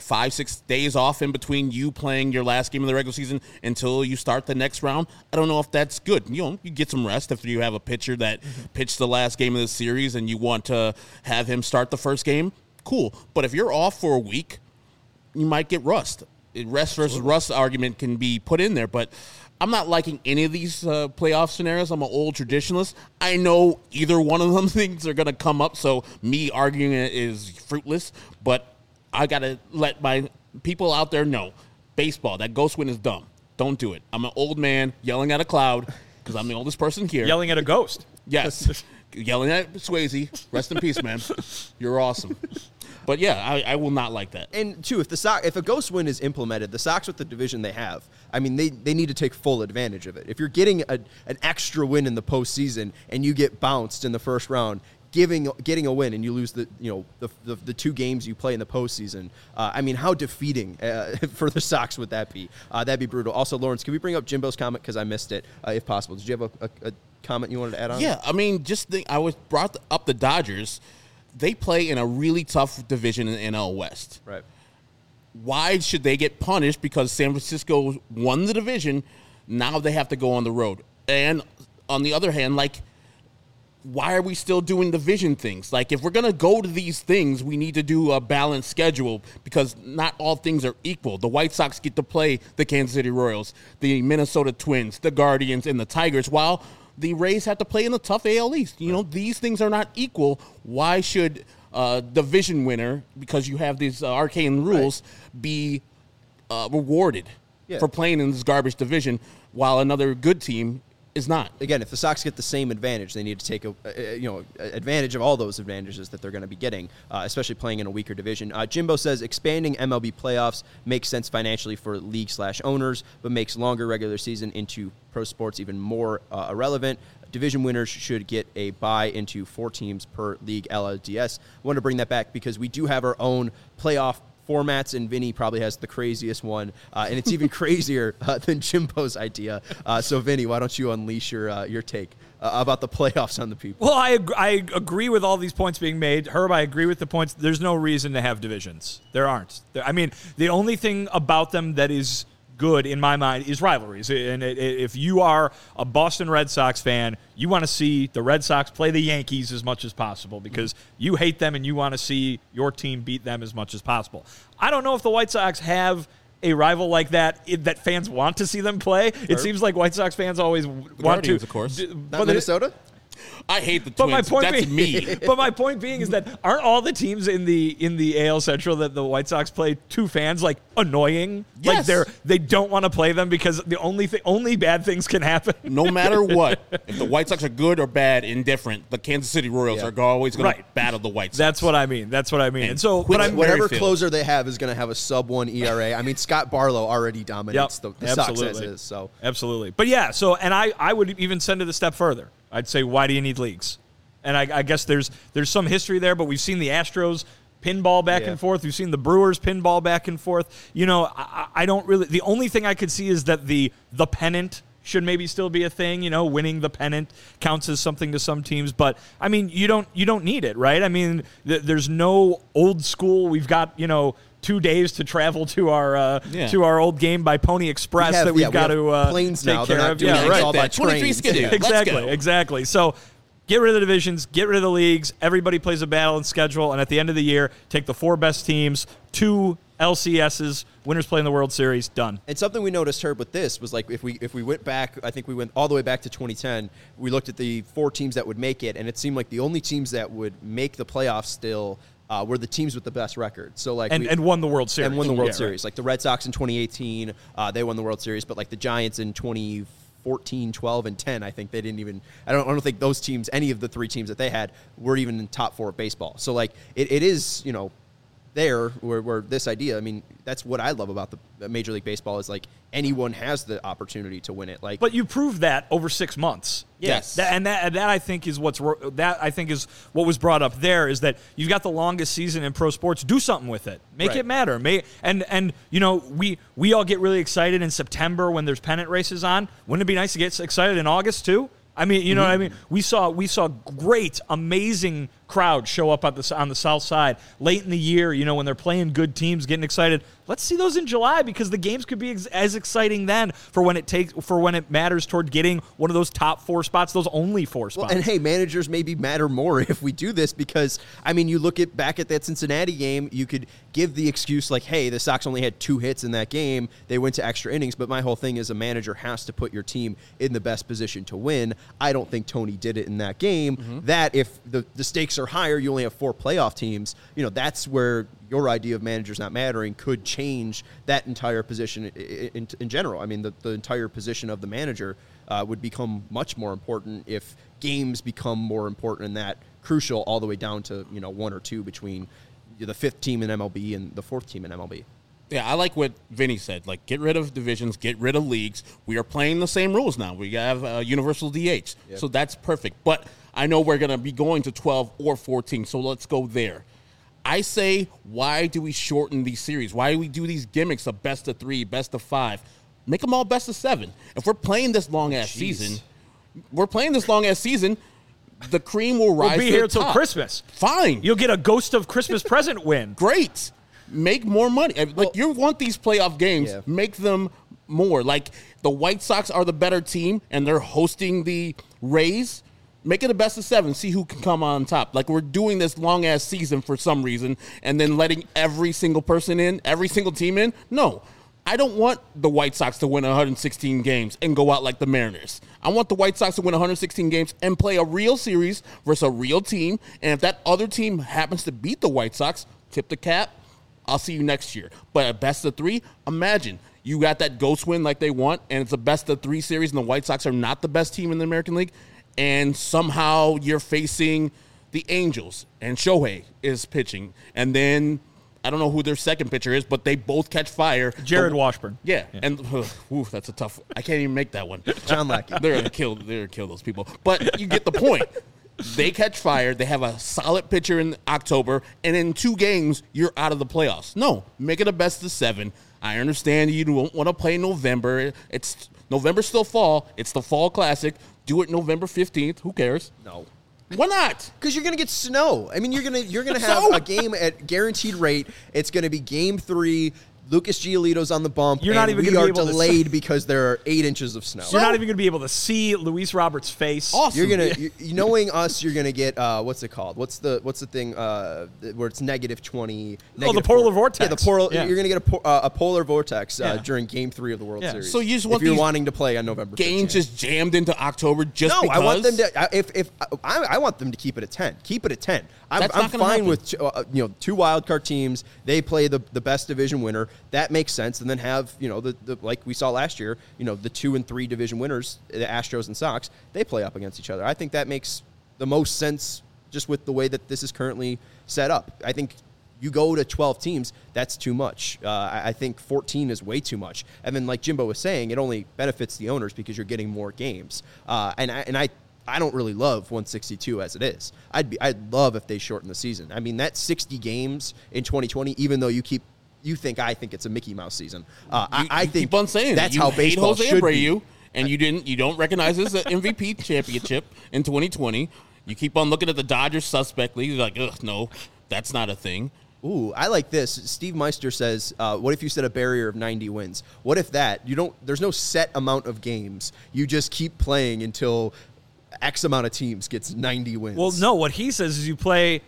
5-6 days off in between you playing your last game of the regular season until you start the next round, I don't know if that's good. You get some rest if you have a pitcher that pitched the last game of the series and you want to have him start the first game, cool. But if you're off for a week, you might get rust. Rest versus rust argument can be put in there, but I'm not liking any of these playoff scenarios. I'm an old traditionalist. I know either one of them things are going to come up, so me arguing it is fruitless, but I got to let my people out there know, baseball, that ghost win is dumb. Don't do it. I'm an old man yelling at a cloud because I'm the oldest person here. Yelling at a ghost. Yes. Yelling at Swayze. Rest in peace, man. You're awesome. But, yeah, I will not like that. And, two, if a ghost win is implemented, the Sox with the division they have, I mean, they need to take full advantage of it. If you're getting an extra win in the postseason and you get bounced in the first round, getting a win and you lose the 2 games you play in the postseason, I mean, how defeating for the Sox would that be? That'd be brutal. Also, Lawrence, can we bring up Jimbo's comment because I missed it, if possible? Did you have a comment you wanted to add on? Yeah, I mean, I was brought up the Dodgers. They play in a really tough division in the NL West. Right. Why should they get punished because San Francisco won the division? Now they have to go on the road. And on the other hand, why are we still doing division things? Like, if we're going to go to these things, we need to do a balanced schedule because not all things are equal. The White Sox get to play the Kansas City Royals, the Minnesota Twins, the Guardians, and the Tigers, while the Rays have to play in the tough AL East. You know, these things are not equal. Why should division winner, because you have these arcane rules, be rewarded for playing in this garbage division while another good team is not? Again, if the Sox get the same advantage, they need to take advantage of all those advantages that they're going to be getting, especially playing in a weaker division. Jimbo says expanding MLB playoffs makes sense financially for league/owners, but makes longer regular season into pro sports even more irrelevant. Division winners should get a bye into 4 teams per league LLDS. I want to bring that back because we do have our own playoff formats, and Vinny probably has the craziest one, and it's even crazier than Jimbo's idea. So, Vinny, why don't you unleash your take about the playoffs on the people? Well, I agree with all these points being made. Herb, I agree with the points. There's no reason to have divisions. There aren't. I mean, the only thing about them that is good in my mind is rivalries. And if you are a Boston Red Sox fan, you want to see the Red Sox play the Yankees as much as possible because you hate them and you want to see your team beat them as much as possible. I don't know if the White Sox have a rival like that that fans want to see them play. It seems like White Sox fans always want Guardians, to. Of course. Not Minnesota? I hate the Twins. That's me. But my point being is that aren't all the teams in the AL Central that the White Sox play to fans like annoying? Yes. Like they don't want to play them because the only bad things can happen. No matter what, if the White Sox are good or bad, indifferent, the Kansas City Royals are always going to battle the White Sox. That's what I mean. And so, whatever closer they have is going to have a sub-1 ERA. I mean, Scott Barlow already dominates the Sox as is. So absolutely. But yeah, so and I would even send it a step further. I'd say, why do you need leagues? And I guess there's some history there, but we've seen the Astros pinball back and forth. We've seen the Brewers pinball back and forth. You know, I don't really – the only thing I could see is that the pennant should maybe still be a thing. You know, winning the pennant counts as something to some teams. But, I mean, you don't need it, right? I mean, there's no old school. We've got, 2 days to travel to our old game by Pony Express we've got to planes take now. care They're of. not doing all by 23 skidoo. Exactly. So get rid of the divisions, get rid of the leagues. Everybody plays a balanced schedule, and at the end of the year, take the 4 best teams, 2 LCSs, winners play in the World Series, done. And something we noticed, Herb, with this was like if we went back, I think we went all the way back to 2010. We looked at the 4 teams that would make it, and it seemed like the only teams that would make the playoffs still were the teams with the best record. So like and won the World Series. And won the World Series. Right. Like the Red Sox in 2018, they won the World Series, but like the Giants in 2014, 12, and 10, I think they didn't even – I don't think those teams, any of the 3 teams that they had, were even in top 4 of baseball. So like it is, there where this idea, I mean, that's what I love about the Major League Baseball is like anyone has the opportunity to win it. Like, but you proved that over 6 months. Yes. That I think is what was brought up there is that you've got the longest season in pro sports. Do something with it. Make it matter. And we all get really excited in September when there's pennant races on. Wouldn't it be nice to get excited in August too? I mean, you know what I mean? We saw great, amazing crowds show up on the South Side late in the year, when they're playing good teams, getting excited. Let's see those in July because the games could be as exciting then for when it matters toward getting one of those top 4 spots, those only 4 spots. Well, and hey, managers maybe matter more if we do this because, I mean, you look back at that Cincinnati game, you could give the excuse like, hey, the Sox only had 2 hits in that game. They went to extra innings, but my whole thing is a manager has to put your team in the best position to win. I don't think Tony did it in that game. That if the stakes are higher, you only have 4 playoff teams, that's where your idea of managers not mattering could change that entire position in general. I mean, the entire position of the manager would become much more important if games become more important and that crucial all the way down to, 1 or 2 between the 5th team in MLB and the 4th team in MLB. Yeah, I like what Vinny said. Like, get rid of divisions, get rid of leagues. We are playing the same rules now. We have universal DH, so that's perfect. But I know we're going to be going to 12 or 14, so let's go there. I say, why do we shorten these series? Why do we do these gimmicks of best of 3, best of 5? Make them all best of 7. If we're playing this long-ass season, the cream will rise to the top. We'll be here till Christmas. Fine. You'll get a Ghost of Christmas Present win. Great. Make more money. Like, you want these playoff games, make them more. Like, the White Sox are the better team, and they're hosting the Rays. Make it a best of 7. See who can come on top. Like, we're doing this long-ass season for some reason and then letting every single person in, every single team in. No. I don't want the White Sox to win 116 games and go out like the Mariners. I want the White Sox to win 116 games and play a real series versus a real team. And if that other team happens to beat the White Sox, tip the cap, I'll see you next year. But a best of 3, imagine you got that ghost win like they want, and it's a best of 3 series, and the White Sox are not the best team in the American League. And somehow you're facing the Angels, and Shohei is pitching. And then, I don't know who their second pitcher is, but they both catch fire. Jared Washburn. Yeah. And, that's a tough, I can't even make that one. John Lackey. They're going to kill those people. But you get the point. They catch fire. They have a solid pitcher in October, and in 2 games, you're out of the playoffs. No, make it a best of 7. I understand you don't want to play in November. November's still fall. It's the Fall Classic. Do it November 15th. Who cares? No. Why not? Because you're gonna get snow. I mean, you're gonna have a game at guaranteed rate. It's gonna be Game 3. Lucas Giolito's on the bump. You're not even we gonna are be able to delayed because there are 8 inches of snow. You're not even going to be able to see Luis Roberts' face. Awesome. Knowing us, you're gonna get what's it called? What's the thing where it's -20? The polar vortex. Yeah, the polar. Yeah. You're gonna get a polar vortex during Game 3 of the World Series. So you just if want you're these wanting to play on November 15th. games just jammed into October just No, because? I want them to. I want them to keep it at 10. Keep it at 10. I'm That's not gonna fine happen. with 2 wild card teams. They play the best division winner. That makes sense. And then have the like we saw last year. The 2 and 3 division winners, the Astros and Sox. They play up against each other. I think that makes the most sense just with the way that this is currently set up. I think you go to 12 teams, that's too much. I think 14 is way too much. And then, like Jimbo was saying, it only benefits the owners because you're getting more games. And I don't really love 162 as it is. I'd love if they shorten the season. I mean, that 60 games in 2020, even though I think it's a Mickey Mouse season. I think keep on saying that's that. how You hate baseball Jose should Abreu, be. and you don't recognize his MVP championship in 2020. You keep on looking at the Dodgers suspectly. You're like, ugh, no, that's not a thing. Ooh, I like this. Steve Meister says, what if you set a barrier of 90 wins? What if there's no set amount of games. You just keep playing until X amount of teams gets 90 wins. Well, no, what he says is you play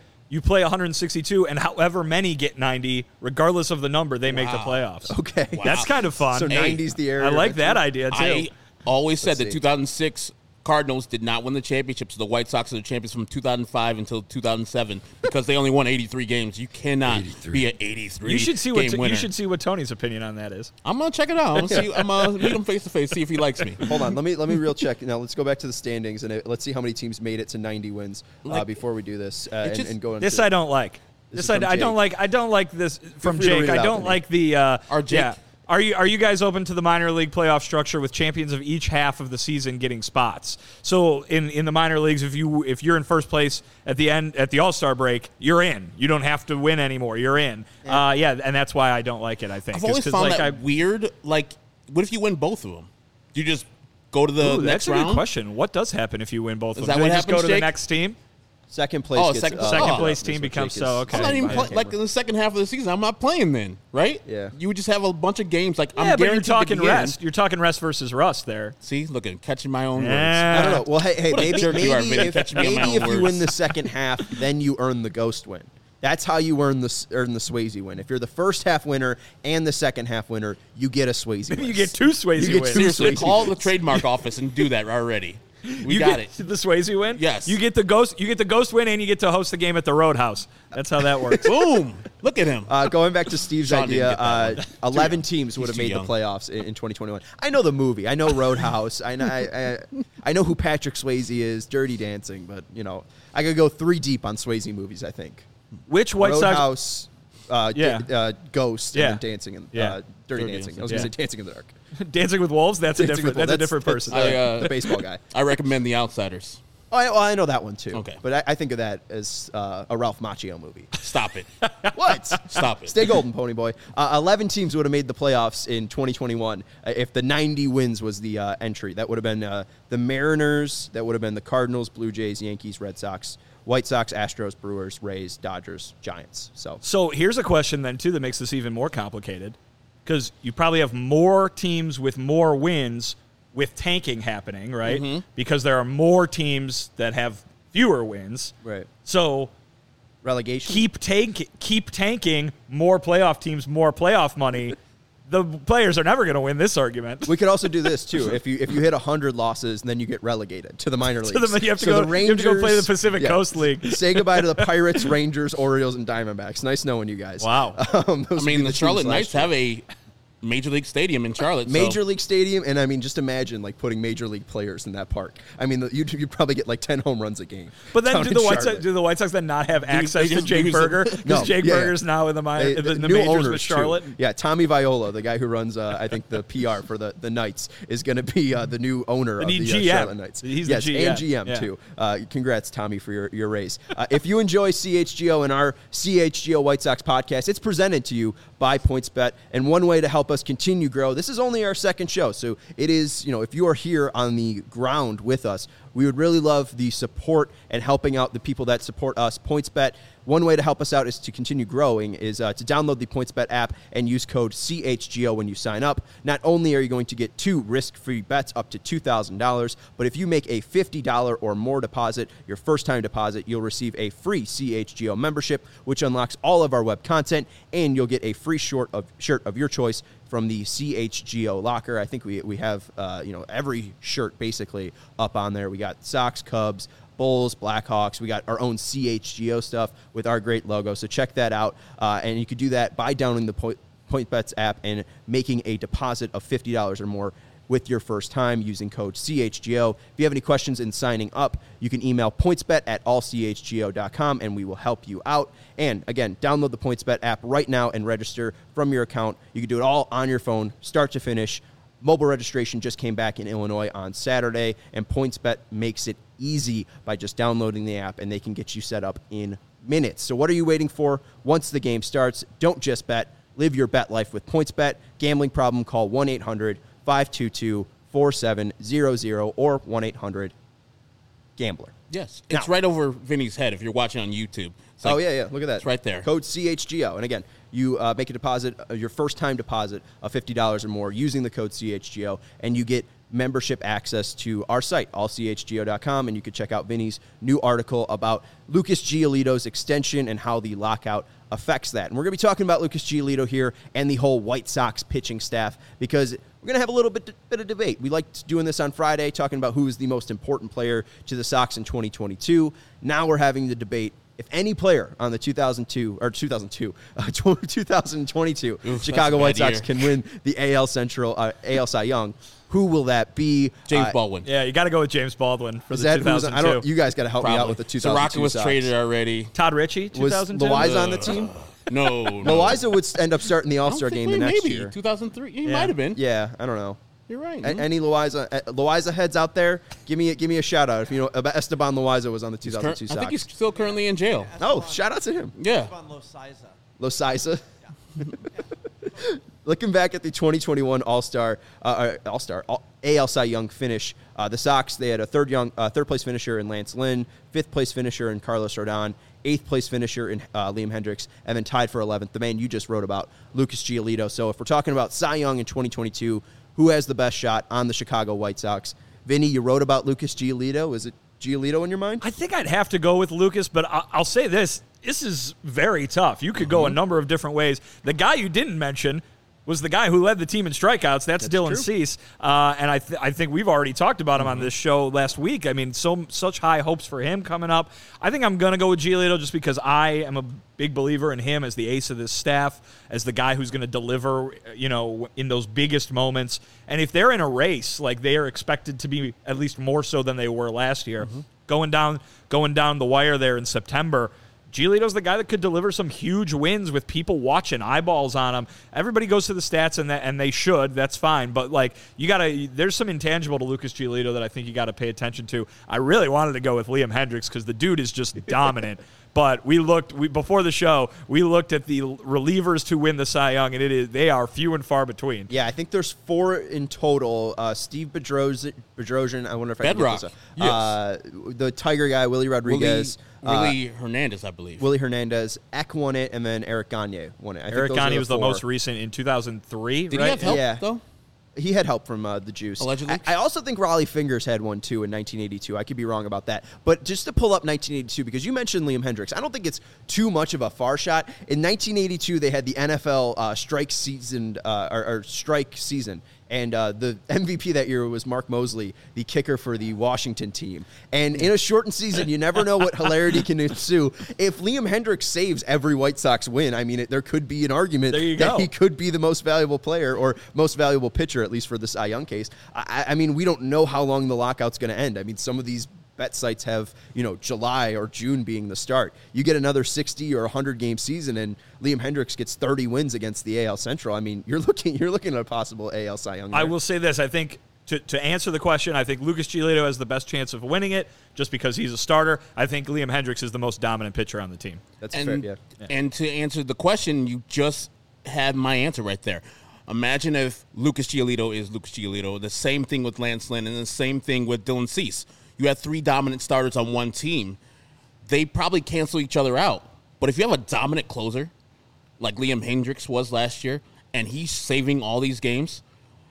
162, and however many get 90, regardless of the number, they make the playoffs. Okay. Wow. That's kind of fun. So 90's the area. I like that idea, too. I always said Let's that see. 2006 Cardinals did not win the championship, so the White Sox are the champions from 2005 until 2007 because they only won 83 games. You cannot be an 83 You should see game winner. you should see what Tony's opinion on that is. I'm gonna check it out. I'm gonna meet him face to face, see if he likes me. Hold on. Let me real check. Now, let's go back to the standings, and let's see how many teams made it to 90 wins before we do this and go into This I don't like. This This is from I don't Jake. like. I don't like this from free to Jake. read it I out don't to me. like the. Our Jake. Yeah. Are you guys open to the minor league playoff structure with champions of each half of the season getting spots? So in the minor leagues, if you're in first place at the end at the All-Star break, you're in. You don't have to win anymore. You're in. And that's why I don't like it. I think I've always found that weird. Like, what if you win both of them? Do you just go to the Ooh, next that's a round? good question. What does happen if you win both of Is them? that Do what they just go happens, to the Jake? next team? second place. Oh, gets, second place that's team what becomes Jake so is- okay. I'm not even by the like in the second half of the season. I'm not playing then, right? Yeah. You would just have a bunch of games. Like Yeah, I'm but you're guaranteed talking to be in. rest. You're talking rest versus rust there. See, look at catching my own Yeah. I don't know. Well, hey, What a maybe jerk you are, maybe Vinny, if, catching me on my maybe own if you words. win the second half, then you earn the ghost win. That's how you earn the Swayze win. If you're the first half winner and the second half winner, you get a Swayze win. You get two Swayze You get wins. two Seriously, Swayze call the wins. trademark office and do that already. We You got get it. the Swayze win. Yes. You get the ghost. You get the ghost win, and you get to host the game at the Roadhouse. That's how that works. Boom! Look at him. Going back to Steve's Sean didn't idea, get that 11 teams would have too made young. the playoffs in 2021. I know the movie. I know Roadhouse. I know who Patrick Swayze is, Dirty Dancing, but, I could go 3 deep on Swayze movies, I think. Which White Sox? Roadhouse, Yeah. Ghost, Yeah. and then Dancing in Yeah. Dirty Dirty Dancing. Dancing. I was going to Yeah. say Dancing in the Dark. Dancing with Wolves. That's a Dancing different. with That's a Wolves. different person. The baseball guy. I recommend The Outsiders. Oh, I know that one too. Okay. But I think of that as a Ralph Macchio movie. Stop it. What? Stop it. Stay golden, Pony Boy. 11 teams would have made the playoffs in 2021 if the 90 wins was the entry. That would have been the Mariners. That would have been the Cardinals, Blue Jays, Yankees, Red Sox, White Sox, Astros, Brewers, Rays, Dodgers, Giants. So here's a question then too that makes this even more complicated, because you probably have more teams with more wins with tanking happening, right? Because there are more teams that have fewer wins. Right. So relegation. Keep tanking, more playoff teams, more playoff money. The players are never going to win this argument. We could also do this too. If you hit 100 losses, then you get relegated to the minor leagues. You have to go play the Pacific Coast League. Say goodbye to the Pirates, Rangers, Orioles, and Diamondbacks. Nice knowing you guys. Wow. The Charlotte Knights have a Major League Stadium in Charlotte. Major League Stadium, and I mean, just imagine like putting Major League players in that park. I mean, you'd probably get like 10 home runs a game. But then do the White Sox then not have access to Jake Berger? Because Jake Berger's now in the majors with Charlotte. Too. Yeah, Tommy Viola, the guy who runs, I think, the PR for the Knights, is going to be the new owner of the Charlotte Knights. He's the GM. And GM, too. Congrats, Tommy, for your raise. If you enjoy CHGO and our CHGO White Sox podcast, it's presented to you by PointsBet. And one way to help us continue grow, this is only our second show, so it is, if you are here on the ground with us, we would really love the support and helping out the people that support us. PointsBet, one way to help us out is to continue growing is to download the PointsBet app and use code CHGO when you sign up. Not only are you going to get 2 risk-free bets up to $2,000, but if you make a $50 or more deposit, your first-time deposit, you'll receive a free CHGO membership, which unlocks all of our web content, and you'll get a free shirt of your choice from the CHGO locker. I think we have every shirt basically up on there. We got Sox, Cubs, Bulls, Blackhawks. We got our own CHGO stuff with our great logo. So check that out. And you could do that by downloading the PointsBet app and making a deposit of $50 or more with your first time using code CHGO. If you have any questions in signing up, you can email pointsbet@allchgo.com and we will help you out. And again, download the PointsBet app right now and register from your account. You can do it all on your phone, start to finish. Mobile registration just came back in Illinois on Saturday, and PointsBet makes it easy by just downloading the app, and they can get you set up in minutes. So what are you waiting for? Once the game starts, don't just bet. Live your bet life with PointsBet. Gambling problem, call 1-800-522-4700 or 1-800-GAMBLER. Yes. It's right over Vinny's head if you're watching on YouTube. Look at that. It's right there. Code CHGO. And again, you make a deposit, your first-time deposit of $50 or more using the code CHGO, and you get membership access to our site, allchgo.com, and you can check out Vinny's new article about Lucas Giolito's extension and how the lockout affects that. And we're going to be talking about Lucas Giolito here and the whole White Sox pitching staff because we're going to have a little bit of debate. We liked doing this on Friday, talking about who is the most important player to the Sox in 2022. Now we're having the debate. If any player on the 2022 Chicago White Sox can win the AL Central, AL Cy Young, who will that be? James Baldwin. Yeah, you got to go with James Baldwin for the 2002. You guys got to help me out with the 2002 Soroka was Sox. traded already. Todd Ritchie, 2002. Was Loaiza on the team? No. Loaiza would end up starting the All-Star game the next year. 2003. He might have been. Yeah, I don't know. You're right. Any Loaiza heads out there? Give me a shout out if you know about Esteban Loaiza was on the 2002 Sox. I think he's still currently in jail. Oh, shout out to him. Yeah. Esteban Loaiza. Looking back at the 2021 AL Cy Young finish, the Sox, they had a third place finisher in Lance Lynn, 5th place finisher in Carlos Rodon, 8th place finisher in Liam Hendricks, and then tied for 11th, the man you just wrote about, Lucas Giolito. So if we're talking about Cy Young in 2022, who has the best shot on the Chicago White Sox? Vinny, you wrote about Lucas Giolito. Is it Giolito in your mind? I think I'd have to go with Lucas, but I'll say this. This is very tough. You could go a number of different ways. The guy you didn't mention was the guy who led the team in strikeouts. That's Dylan Cease. And I think we've already talked about him on this show last week. I mean, such high hopes for him coming up. I think I'm going to go with Giolito just because I am a big believer in him as the ace of this staff, as the guy who's going to deliver, in those biggest moments. And if they're in a race, like they are expected to be at least more so than they were last year, going down the wire there in September, Giolito's the guy that could deliver some huge wins with people watching, eyeballs on him. Everybody goes to the stats, and they should. That's fine. But, there's some intangible to Lucas Giolito that I think you got to pay attention to. I really wanted to go with Liam Hendricks because the dude is just dominant. But before the show, we looked at the relievers to win the Cy Young, and they are few and far between. Yeah, I think there's 4 in total. Steve Bedrosian, I wonder if I Bedrock. can get this. The Tiger guy, Willie Rodriguez. Willie Hernandez, I believe. Willie Hernandez. Eck won it, and then Eric Gagne won it. Eric Gagne was the most recent in 2003, Did right? he have help, though? He had help from the juice. Allegedly. I also think Raleigh Fingers had one, too, in 1982. I could be wrong about that. But just to pull up 1982, because you mentioned Liam Hendriks, I don't think it's too much of a far shot. In 1982, they had the NFL strike season, or strike season. And the MVP that year was Mark Mosley, the kicker for the Washington team. And in a shortened season, you never know what hilarity can ensue. If Liam Hendriks saves every White Sox win, I mean, there could be an argument that he could be the most valuable player or most valuable pitcher, at least for the Cy Young case. I mean, we don't know how long the lockout's going to end. I mean, some of these bet sites have, July or June being the start. You get another 60 or 100 game season and Liam Hendriks gets 30 wins against the AL Central. I mean, you're looking at a possible AL Cy Young. I will say this. I think to answer the question, I think Lucas Giolito has the best chance of winning it just because he's a starter. I think Liam Hendriks is the most dominant pitcher on the team. That's fair, yeah. And to answer the question, you just had my answer right there. Imagine if Lucas Giolito is Lucas Giolito. The same thing with Lance Lynn and the same thing with Dylan Cease. You have 3 dominant starters on one team. They probably cancel each other out. But if you have a dominant closer, like Liam Hendriks was last year, and he's saving all these games,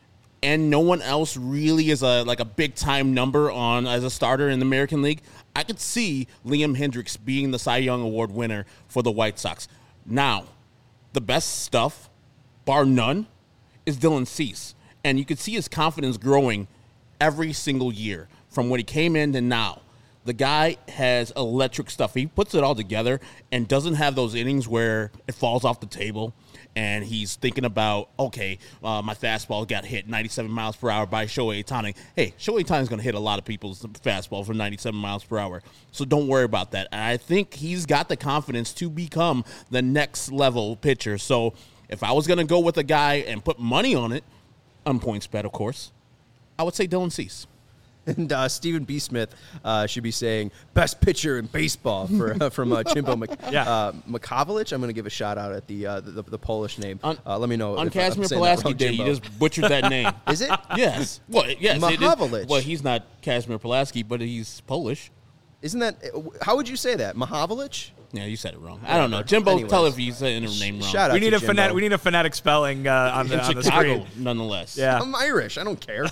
and no one else really is a big-time number on as a starter in the American League, I could see Liam Hendriks being the Cy Young Award winner for the White Sox. Now, the best stuff, bar none, is Dylan Cease. And you could see his confidence growing every single year from when he came in to now. The guy has electric stuff. He puts it all together and doesn't have those innings where it falls off the table and he's thinking about, okay, my fastball got hit 97 miles per hour by Shohei Ohtani. Hey, Shohei Ohtani is going to hit a lot of people's fastball for 97 miles per hour, so don't worry about that. And I think he's got the confidence to become the next level pitcher. So if I was going to go with a guy and put money on it, on PointsBet, of course, I would say Dylan Cease. And Stephen B. Smith should be saying best pitcher in baseball from Chimbo Makovlich. I'm going to give a shout out at the Polish name. Let me know on Kazimir Pulaski Day. You just butchered that name. Is it? Yes. Well, yes. Mahovlich. Well, he's not Kazimir Pulaski, but he's Polish. Isn't that? How would you say that? Mahovlich? Yeah, you said it wrong. I don't know. Jimbo, anyways, tell if you said your name wrong. Shout out we need a phonetic spelling on the screen. Nonetheless. Yeah. I'm Irish. I don't care.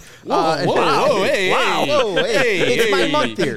Whoa, hey, it's my month here.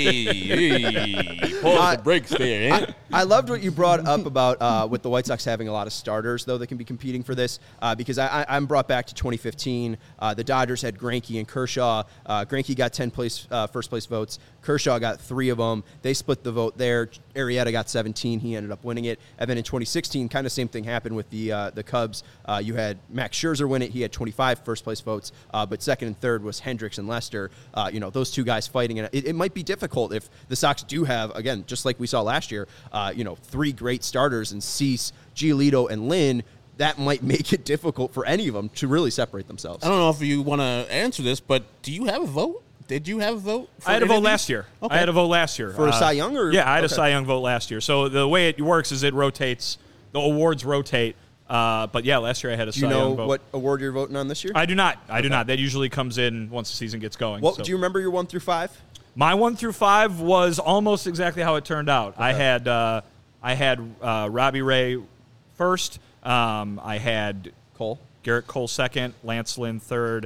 Hey. Pause the brakes there. Eh? I loved what you brought up about with the White Sox having a lot of starters, though, that can be competing for this, because I'm brought back to 2015. The Dodgers had Greinke and Kershaw. Greinke got 10 first-place votes. Kershaw got 3 of them. They split the vote there. Arrieta got 17. He ended up winning it. And then in 2016, kind of same thing happened with the Cubs. You had Max Scherzer win it. He had 25 first-place votes, but second and third was Hendricks and Lester. Those two guys fighting. And it might be difficult if the Sox do have, again, just like we saw last year, 3 great starters in Cease, Giolito, and Lynn. That might make it difficult for any of them to really separate themselves. I don't know if you want to answer this, but do you have a vote? Did you have a vote? I had a vote last year. Okay. I had a vote last year. For a Cy Young? Yeah, I had a Cy Young vote last year. So the way it works is it rotates. The awards rotate. But, yeah, last year I had a Cy Young vote. Do you know what award you're voting on this year? I do not. I do not. That usually comes in once the season gets going. Do you remember your 1 through 5? My 1 through 5 was almost exactly how it turned out. Okay. I had Robbie Ray first. I had Cole. Garrett Cole second. Lance Lynn third.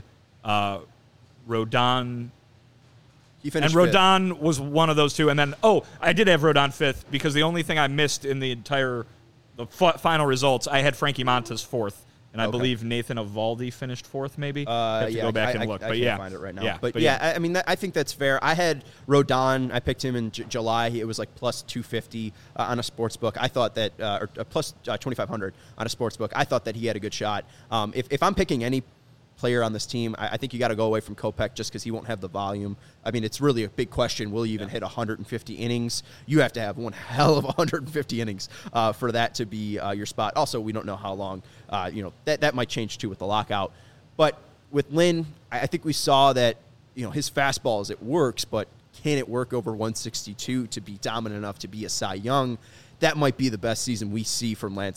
Rodon. He finished and Rodon fifth. Was one of those two. And then, I did have Rodon fifth because the only thing I missed in the final results, I had Frankie Montas fourth. And I believe Nathan Eovaldi finished fourth, maybe. I have to go back and look. I can't find it right now. I mean, I think that's fair. I had Rodon. I picked him in July. It was like plus 250 on a sports book. I thought that, or plus 2,500 on a sports book. I thought that he had a good shot. If I'm picking any player on this team, I think you got to go away from Kopech just because he won't have the volume. I mean, it's really a big question. Will he even hit 150 innings? You have to have one hell of 150 innings for that to be your spot. Also, we don't know how long. That might change too with the lockout. But with Lynn, I think we saw that his fastball it works, but can it work over 162 to be dominant enough to be a Cy Young? That might be the best season we see from Lance Lynn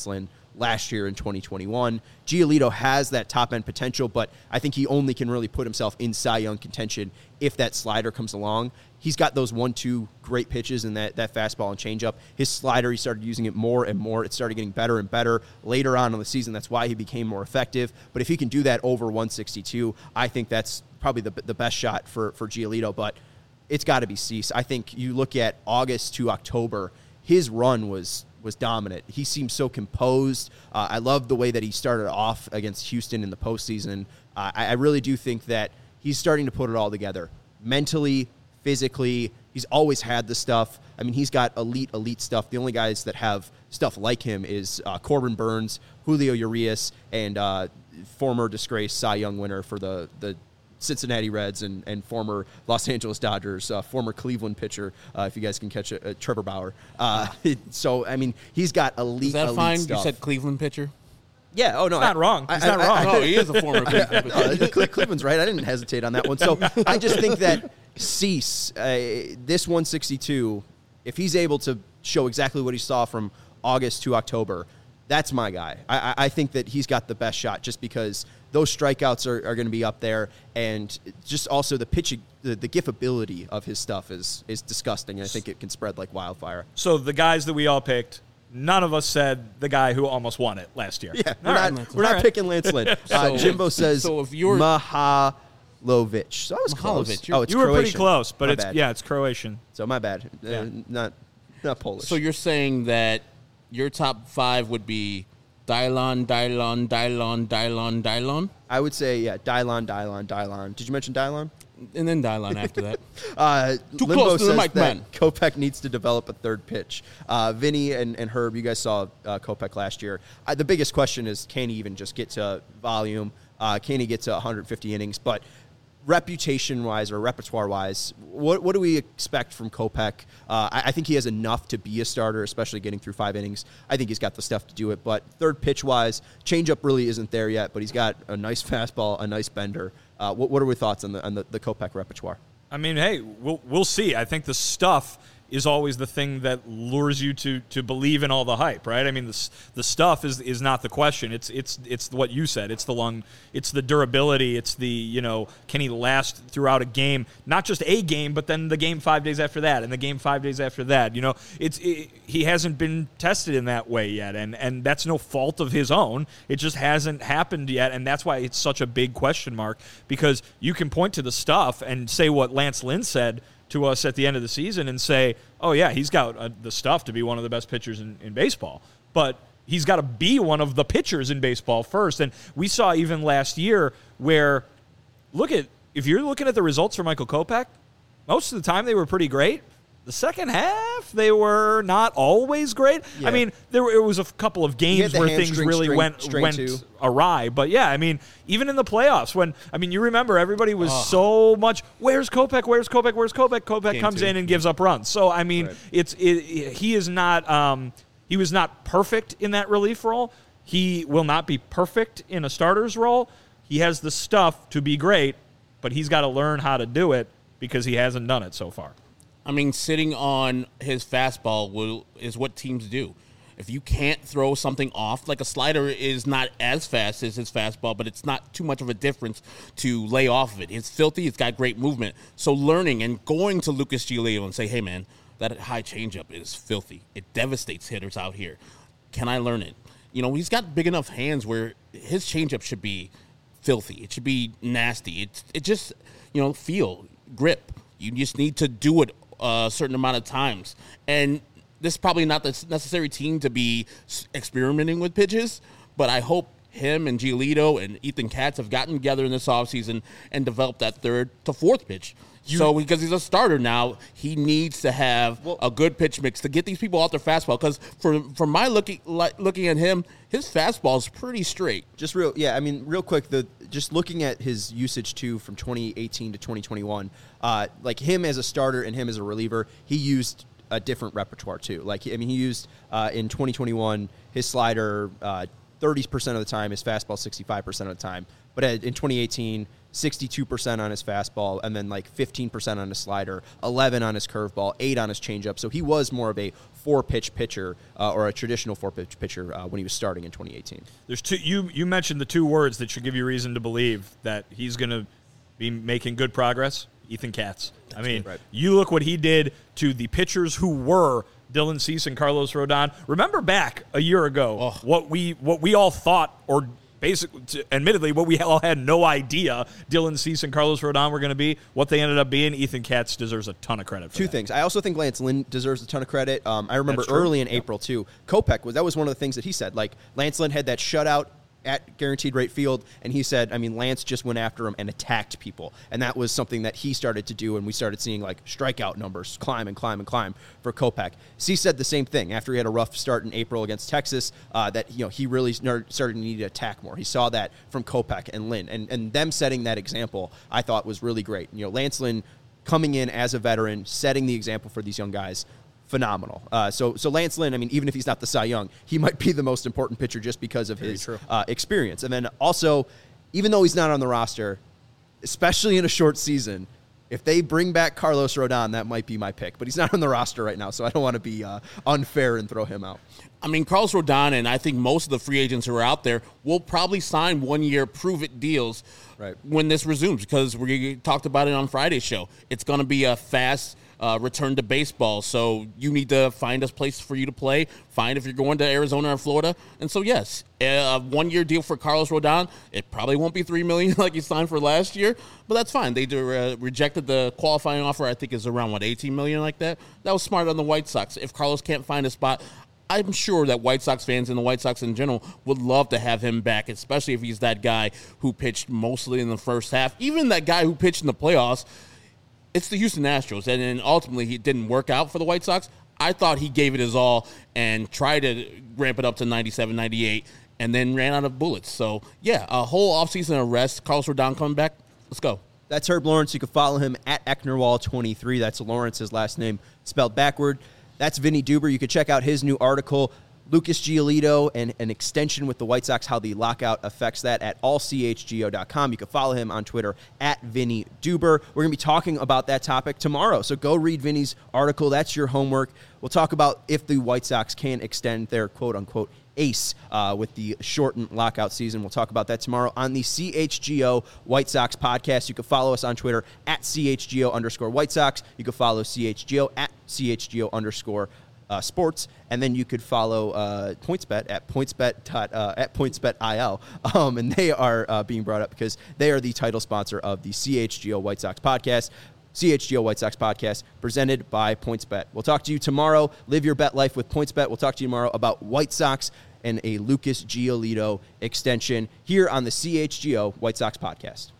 last year in 2021. Giolito has that top-end potential, but I think he only can really put himself in Cy Young contention if that slider comes along. He's got those 1-2 great pitches in that fastball and changeup. His slider, he started using it more and more. It started getting better and better later on in the season. That's why he became more effective. But if he can do that over 162, I think that's probably the best shot for Giolito. But it's got to be Cease. I think you look at August to October, his run was dominant. He seemed so composed. I love the way that he started off against Houston in the postseason. I really do think that he's starting to put it all together. Mentally, physically, he's always had the stuff. I mean, he's got elite stuff. The only guys that have stuff like him is Corbin Burns, Julio Urias, and former disgraced Cy Young winner for the Cincinnati Reds and former Los Angeles Dodgers, former Cleveland pitcher, if you guys can catch Trevor Bauer. So, I mean, he's got elite Is that fine? stuff. You said Cleveland pitcher? Yeah, oh, no. He's not wrong. He's not wrong. No, he is a former Cleveland pitcher. Cleveland's right. I didn't hesitate on that one. So I just think that Cease, this 162, if he's able to show exactly what he saw from August to October, that's my guy. I think that he's got the best shot just because those strikeouts are going to be up there, and just also the pitching, the giftability of his stuff is disgusting, and I think it can spread like wildfire. So the guys that we all picked, none of us said the guy who almost won it last year. Yeah, we're not picking Lance Lynn. Jimbo says if you're Mahalovic. So I was close. It's You were Croatian. pretty close, but My bad. it's Croatian. So my bad. Yeah. Not Polish. So you're saying that your top 5 would be Dylon. I would say, yeah, Dylon. Did you mention Dylon? And then Dylon after that. Too Limbo close to the says mic, that man. Kopech needs to develop a third pitch. Vinny and Herb, you guys saw Kopech last year. The biggest question is, can he even just get to volume? Can he get to 150 innings? But reputation-wise or repertoire-wise, what do we expect from Kopech? I think he has enough to be a starter, especially getting through 5 innings. I think he's got the stuff to do it. But third pitch-wise, changeup really isn't there yet, but he's got a nice fastball, a nice bender. What are your thoughts on the Kopech repertoire? I mean, hey, we'll see. I think the stuff is always the thing that lures you to believe in all the hype, right? I mean, the stuff is not the question. It's what you said. It's the durability. It's the, can he last throughout a game? Not just a game, but then the game 5 days after that, and the game 5 days after that. He hasn't been tested in that way yet, and that's no fault of his own. It just hasn't happened yet, and that's why it's such a big question mark, because you can point to the stuff and say what Lance Lynn said to us at the end of the season and say, oh, yeah, he's got the stuff to be one of the best pitchers in baseball. But he's got to be one of the pitchers in baseball first. And we saw even last year where, if you're looking at the results for Michael Kopech, most of the time they were pretty great. The second half, they were not always great. Yeah. I mean, it was a couple of games where things really went too. awry. But, yeah, I mean, even in the playoffs, you remember everybody was so much, where's Kopech? Kopech comes in and gives up runs. So, I mean, right. he is not he was not perfect in that relief role. He will not be perfect in a starter's role. He has the stuff to be great, but he's got to learn how to do it because he hasn't done it so far. I mean, sitting on his fastball is what teams do. If you can't throw something off, like a slider is not as fast as his fastball, but it's not too much of a difference to lay off of it. It's filthy. It's got great movement. So learning and going to Lucas Giolito and say, hey, man, that high changeup is filthy. It devastates hitters out here. Can I learn it? He's got big enough hands where his changeup should be filthy. It should be nasty. It just, feel, grip. You just need to do it a certain amount of times. And this is probably not the necessary team to be experimenting with pitches, but I hope him and Giolito and Ethan Katz have gotten together in this offseason and developed that third to fourth pitch. So because he's a starter now, he needs to have a good pitch mix to get these people off their fastball. Because from my looking at him, his fastball is pretty straight. Real quick, just looking at his usage too from 2018 to 2021, like him as a starter and him as a reliever, he used a different repertoire too. He used in 2021 his slider 30% of the time, his fastball 65% of the time. But in 2018, 62% on his fastball, and then like 15% on his slider, 11 on his curveball, 8 on his changeup. So he was more of a 4-pitch pitcher or a traditional 4-pitch pitcher when he was starting in 2018. There's two. You mentioned the two words that should give you reason to believe that he's going to be making good progress. Ethan Katz. I mean, right. You look what he did to the pitchers who were Dylan Cease and Carlos Rodon. Remember back a year ago what we all thought, or basically, admittedly, what we all had no idea Dylan Cease and Carlos Rodon were going to be, what they ended up being. Ethan Katz deserves a ton of credit for Two that. things. I also think Lance Lynn deserves a ton of credit. I remember early in April, too, Kopech, that was one of the things that he said. Like, Lance Lynn had that shutout at Guaranteed Rate Field, and he said, I mean, Lance just went after him and attacked people. And that was something that he started to do, and we started seeing, like, strikeout numbers climb and climb and climb for Kopech. C said the same thing after he had a rough start in April against Texas, that, he really started to need to attack more. He saw that from Kopech and Lynn. And them setting that example, I thought, was really great. Lance Lynn coming in as a veteran, setting the example for these young guys, phenomenal. So Lance Lynn, I mean, even if he's not the Cy Young, he might be the most important pitcher just because of his experience. And then also, even though he's not on the roster, especially in a short season, if they bring back Carlos Rodon, that might be my pick. But he's not on the roster right now, so I don't want to be unfair and throw him out. I mean, Carlos Rodon and I think most of the free agents who are out there will probably sign one-year prove-it deals when this resumes, because we talked about it on Friday's show. It's going to be a fast return to baseball, so you need to find a place for you to play, find if you're going to Arizona or Florida. And so, yes, a one-year deal for Carlos Rodon. It probably won't be $3 million like he signed for last year, but that's fine. They rejected the qualifying offer. I think is around, $18 million like that. That was smart on the White Sox. If Carlos can't find a spot, I'm sure that White Sox fans and the White Sox in general would love to have him back, especially if he's that guy who pitched mostly in the first half. Even that guy who pitched in the playoffs. It's the Houston Astros, and then ultimately he didn't work out for the White Sox. I thought he gave it his all and tried to ramp it up to 97, 98, and then ran out of bullets. So, yeah, a whole offseason of rest. Carlos Rodon coming back. Let's go. That's Herb Lawrence. You can follow him at Ecknerwall23. That's Lawrence's last name spelled backward. That's Vinny Duber. You can check out his new article, Lucas Giolito and an extension with the White Sox, how the lockout affects that, at allchgo.com. You can follow him on Twitter at Vinny Duber. We're going to be talking about that topic tomorrow, so go read Vinny's article. That's your homework. We'll talk about if the White Sox can extend their quote-unquote ace with the shortened lockout season. We'll talk about that tomorrow on the CHGO White Sox podcast. You can follow us on Twitter at CHGO_White Sox. You can follow CHGO at CHGO_ sports, and then you could follow PointsBet at PointsBet.il, and they are being brought up because they are the title sponsor of the CHGO White Sox podcast. CHGO White Sox podcast presented by PointsBet. We'll talk to you tomorrow. Live your bet life with PointsBet. We'll talk to you tomorrow about White Sox and a Lucas Giolito extension here on the CHGO White Sox podcast.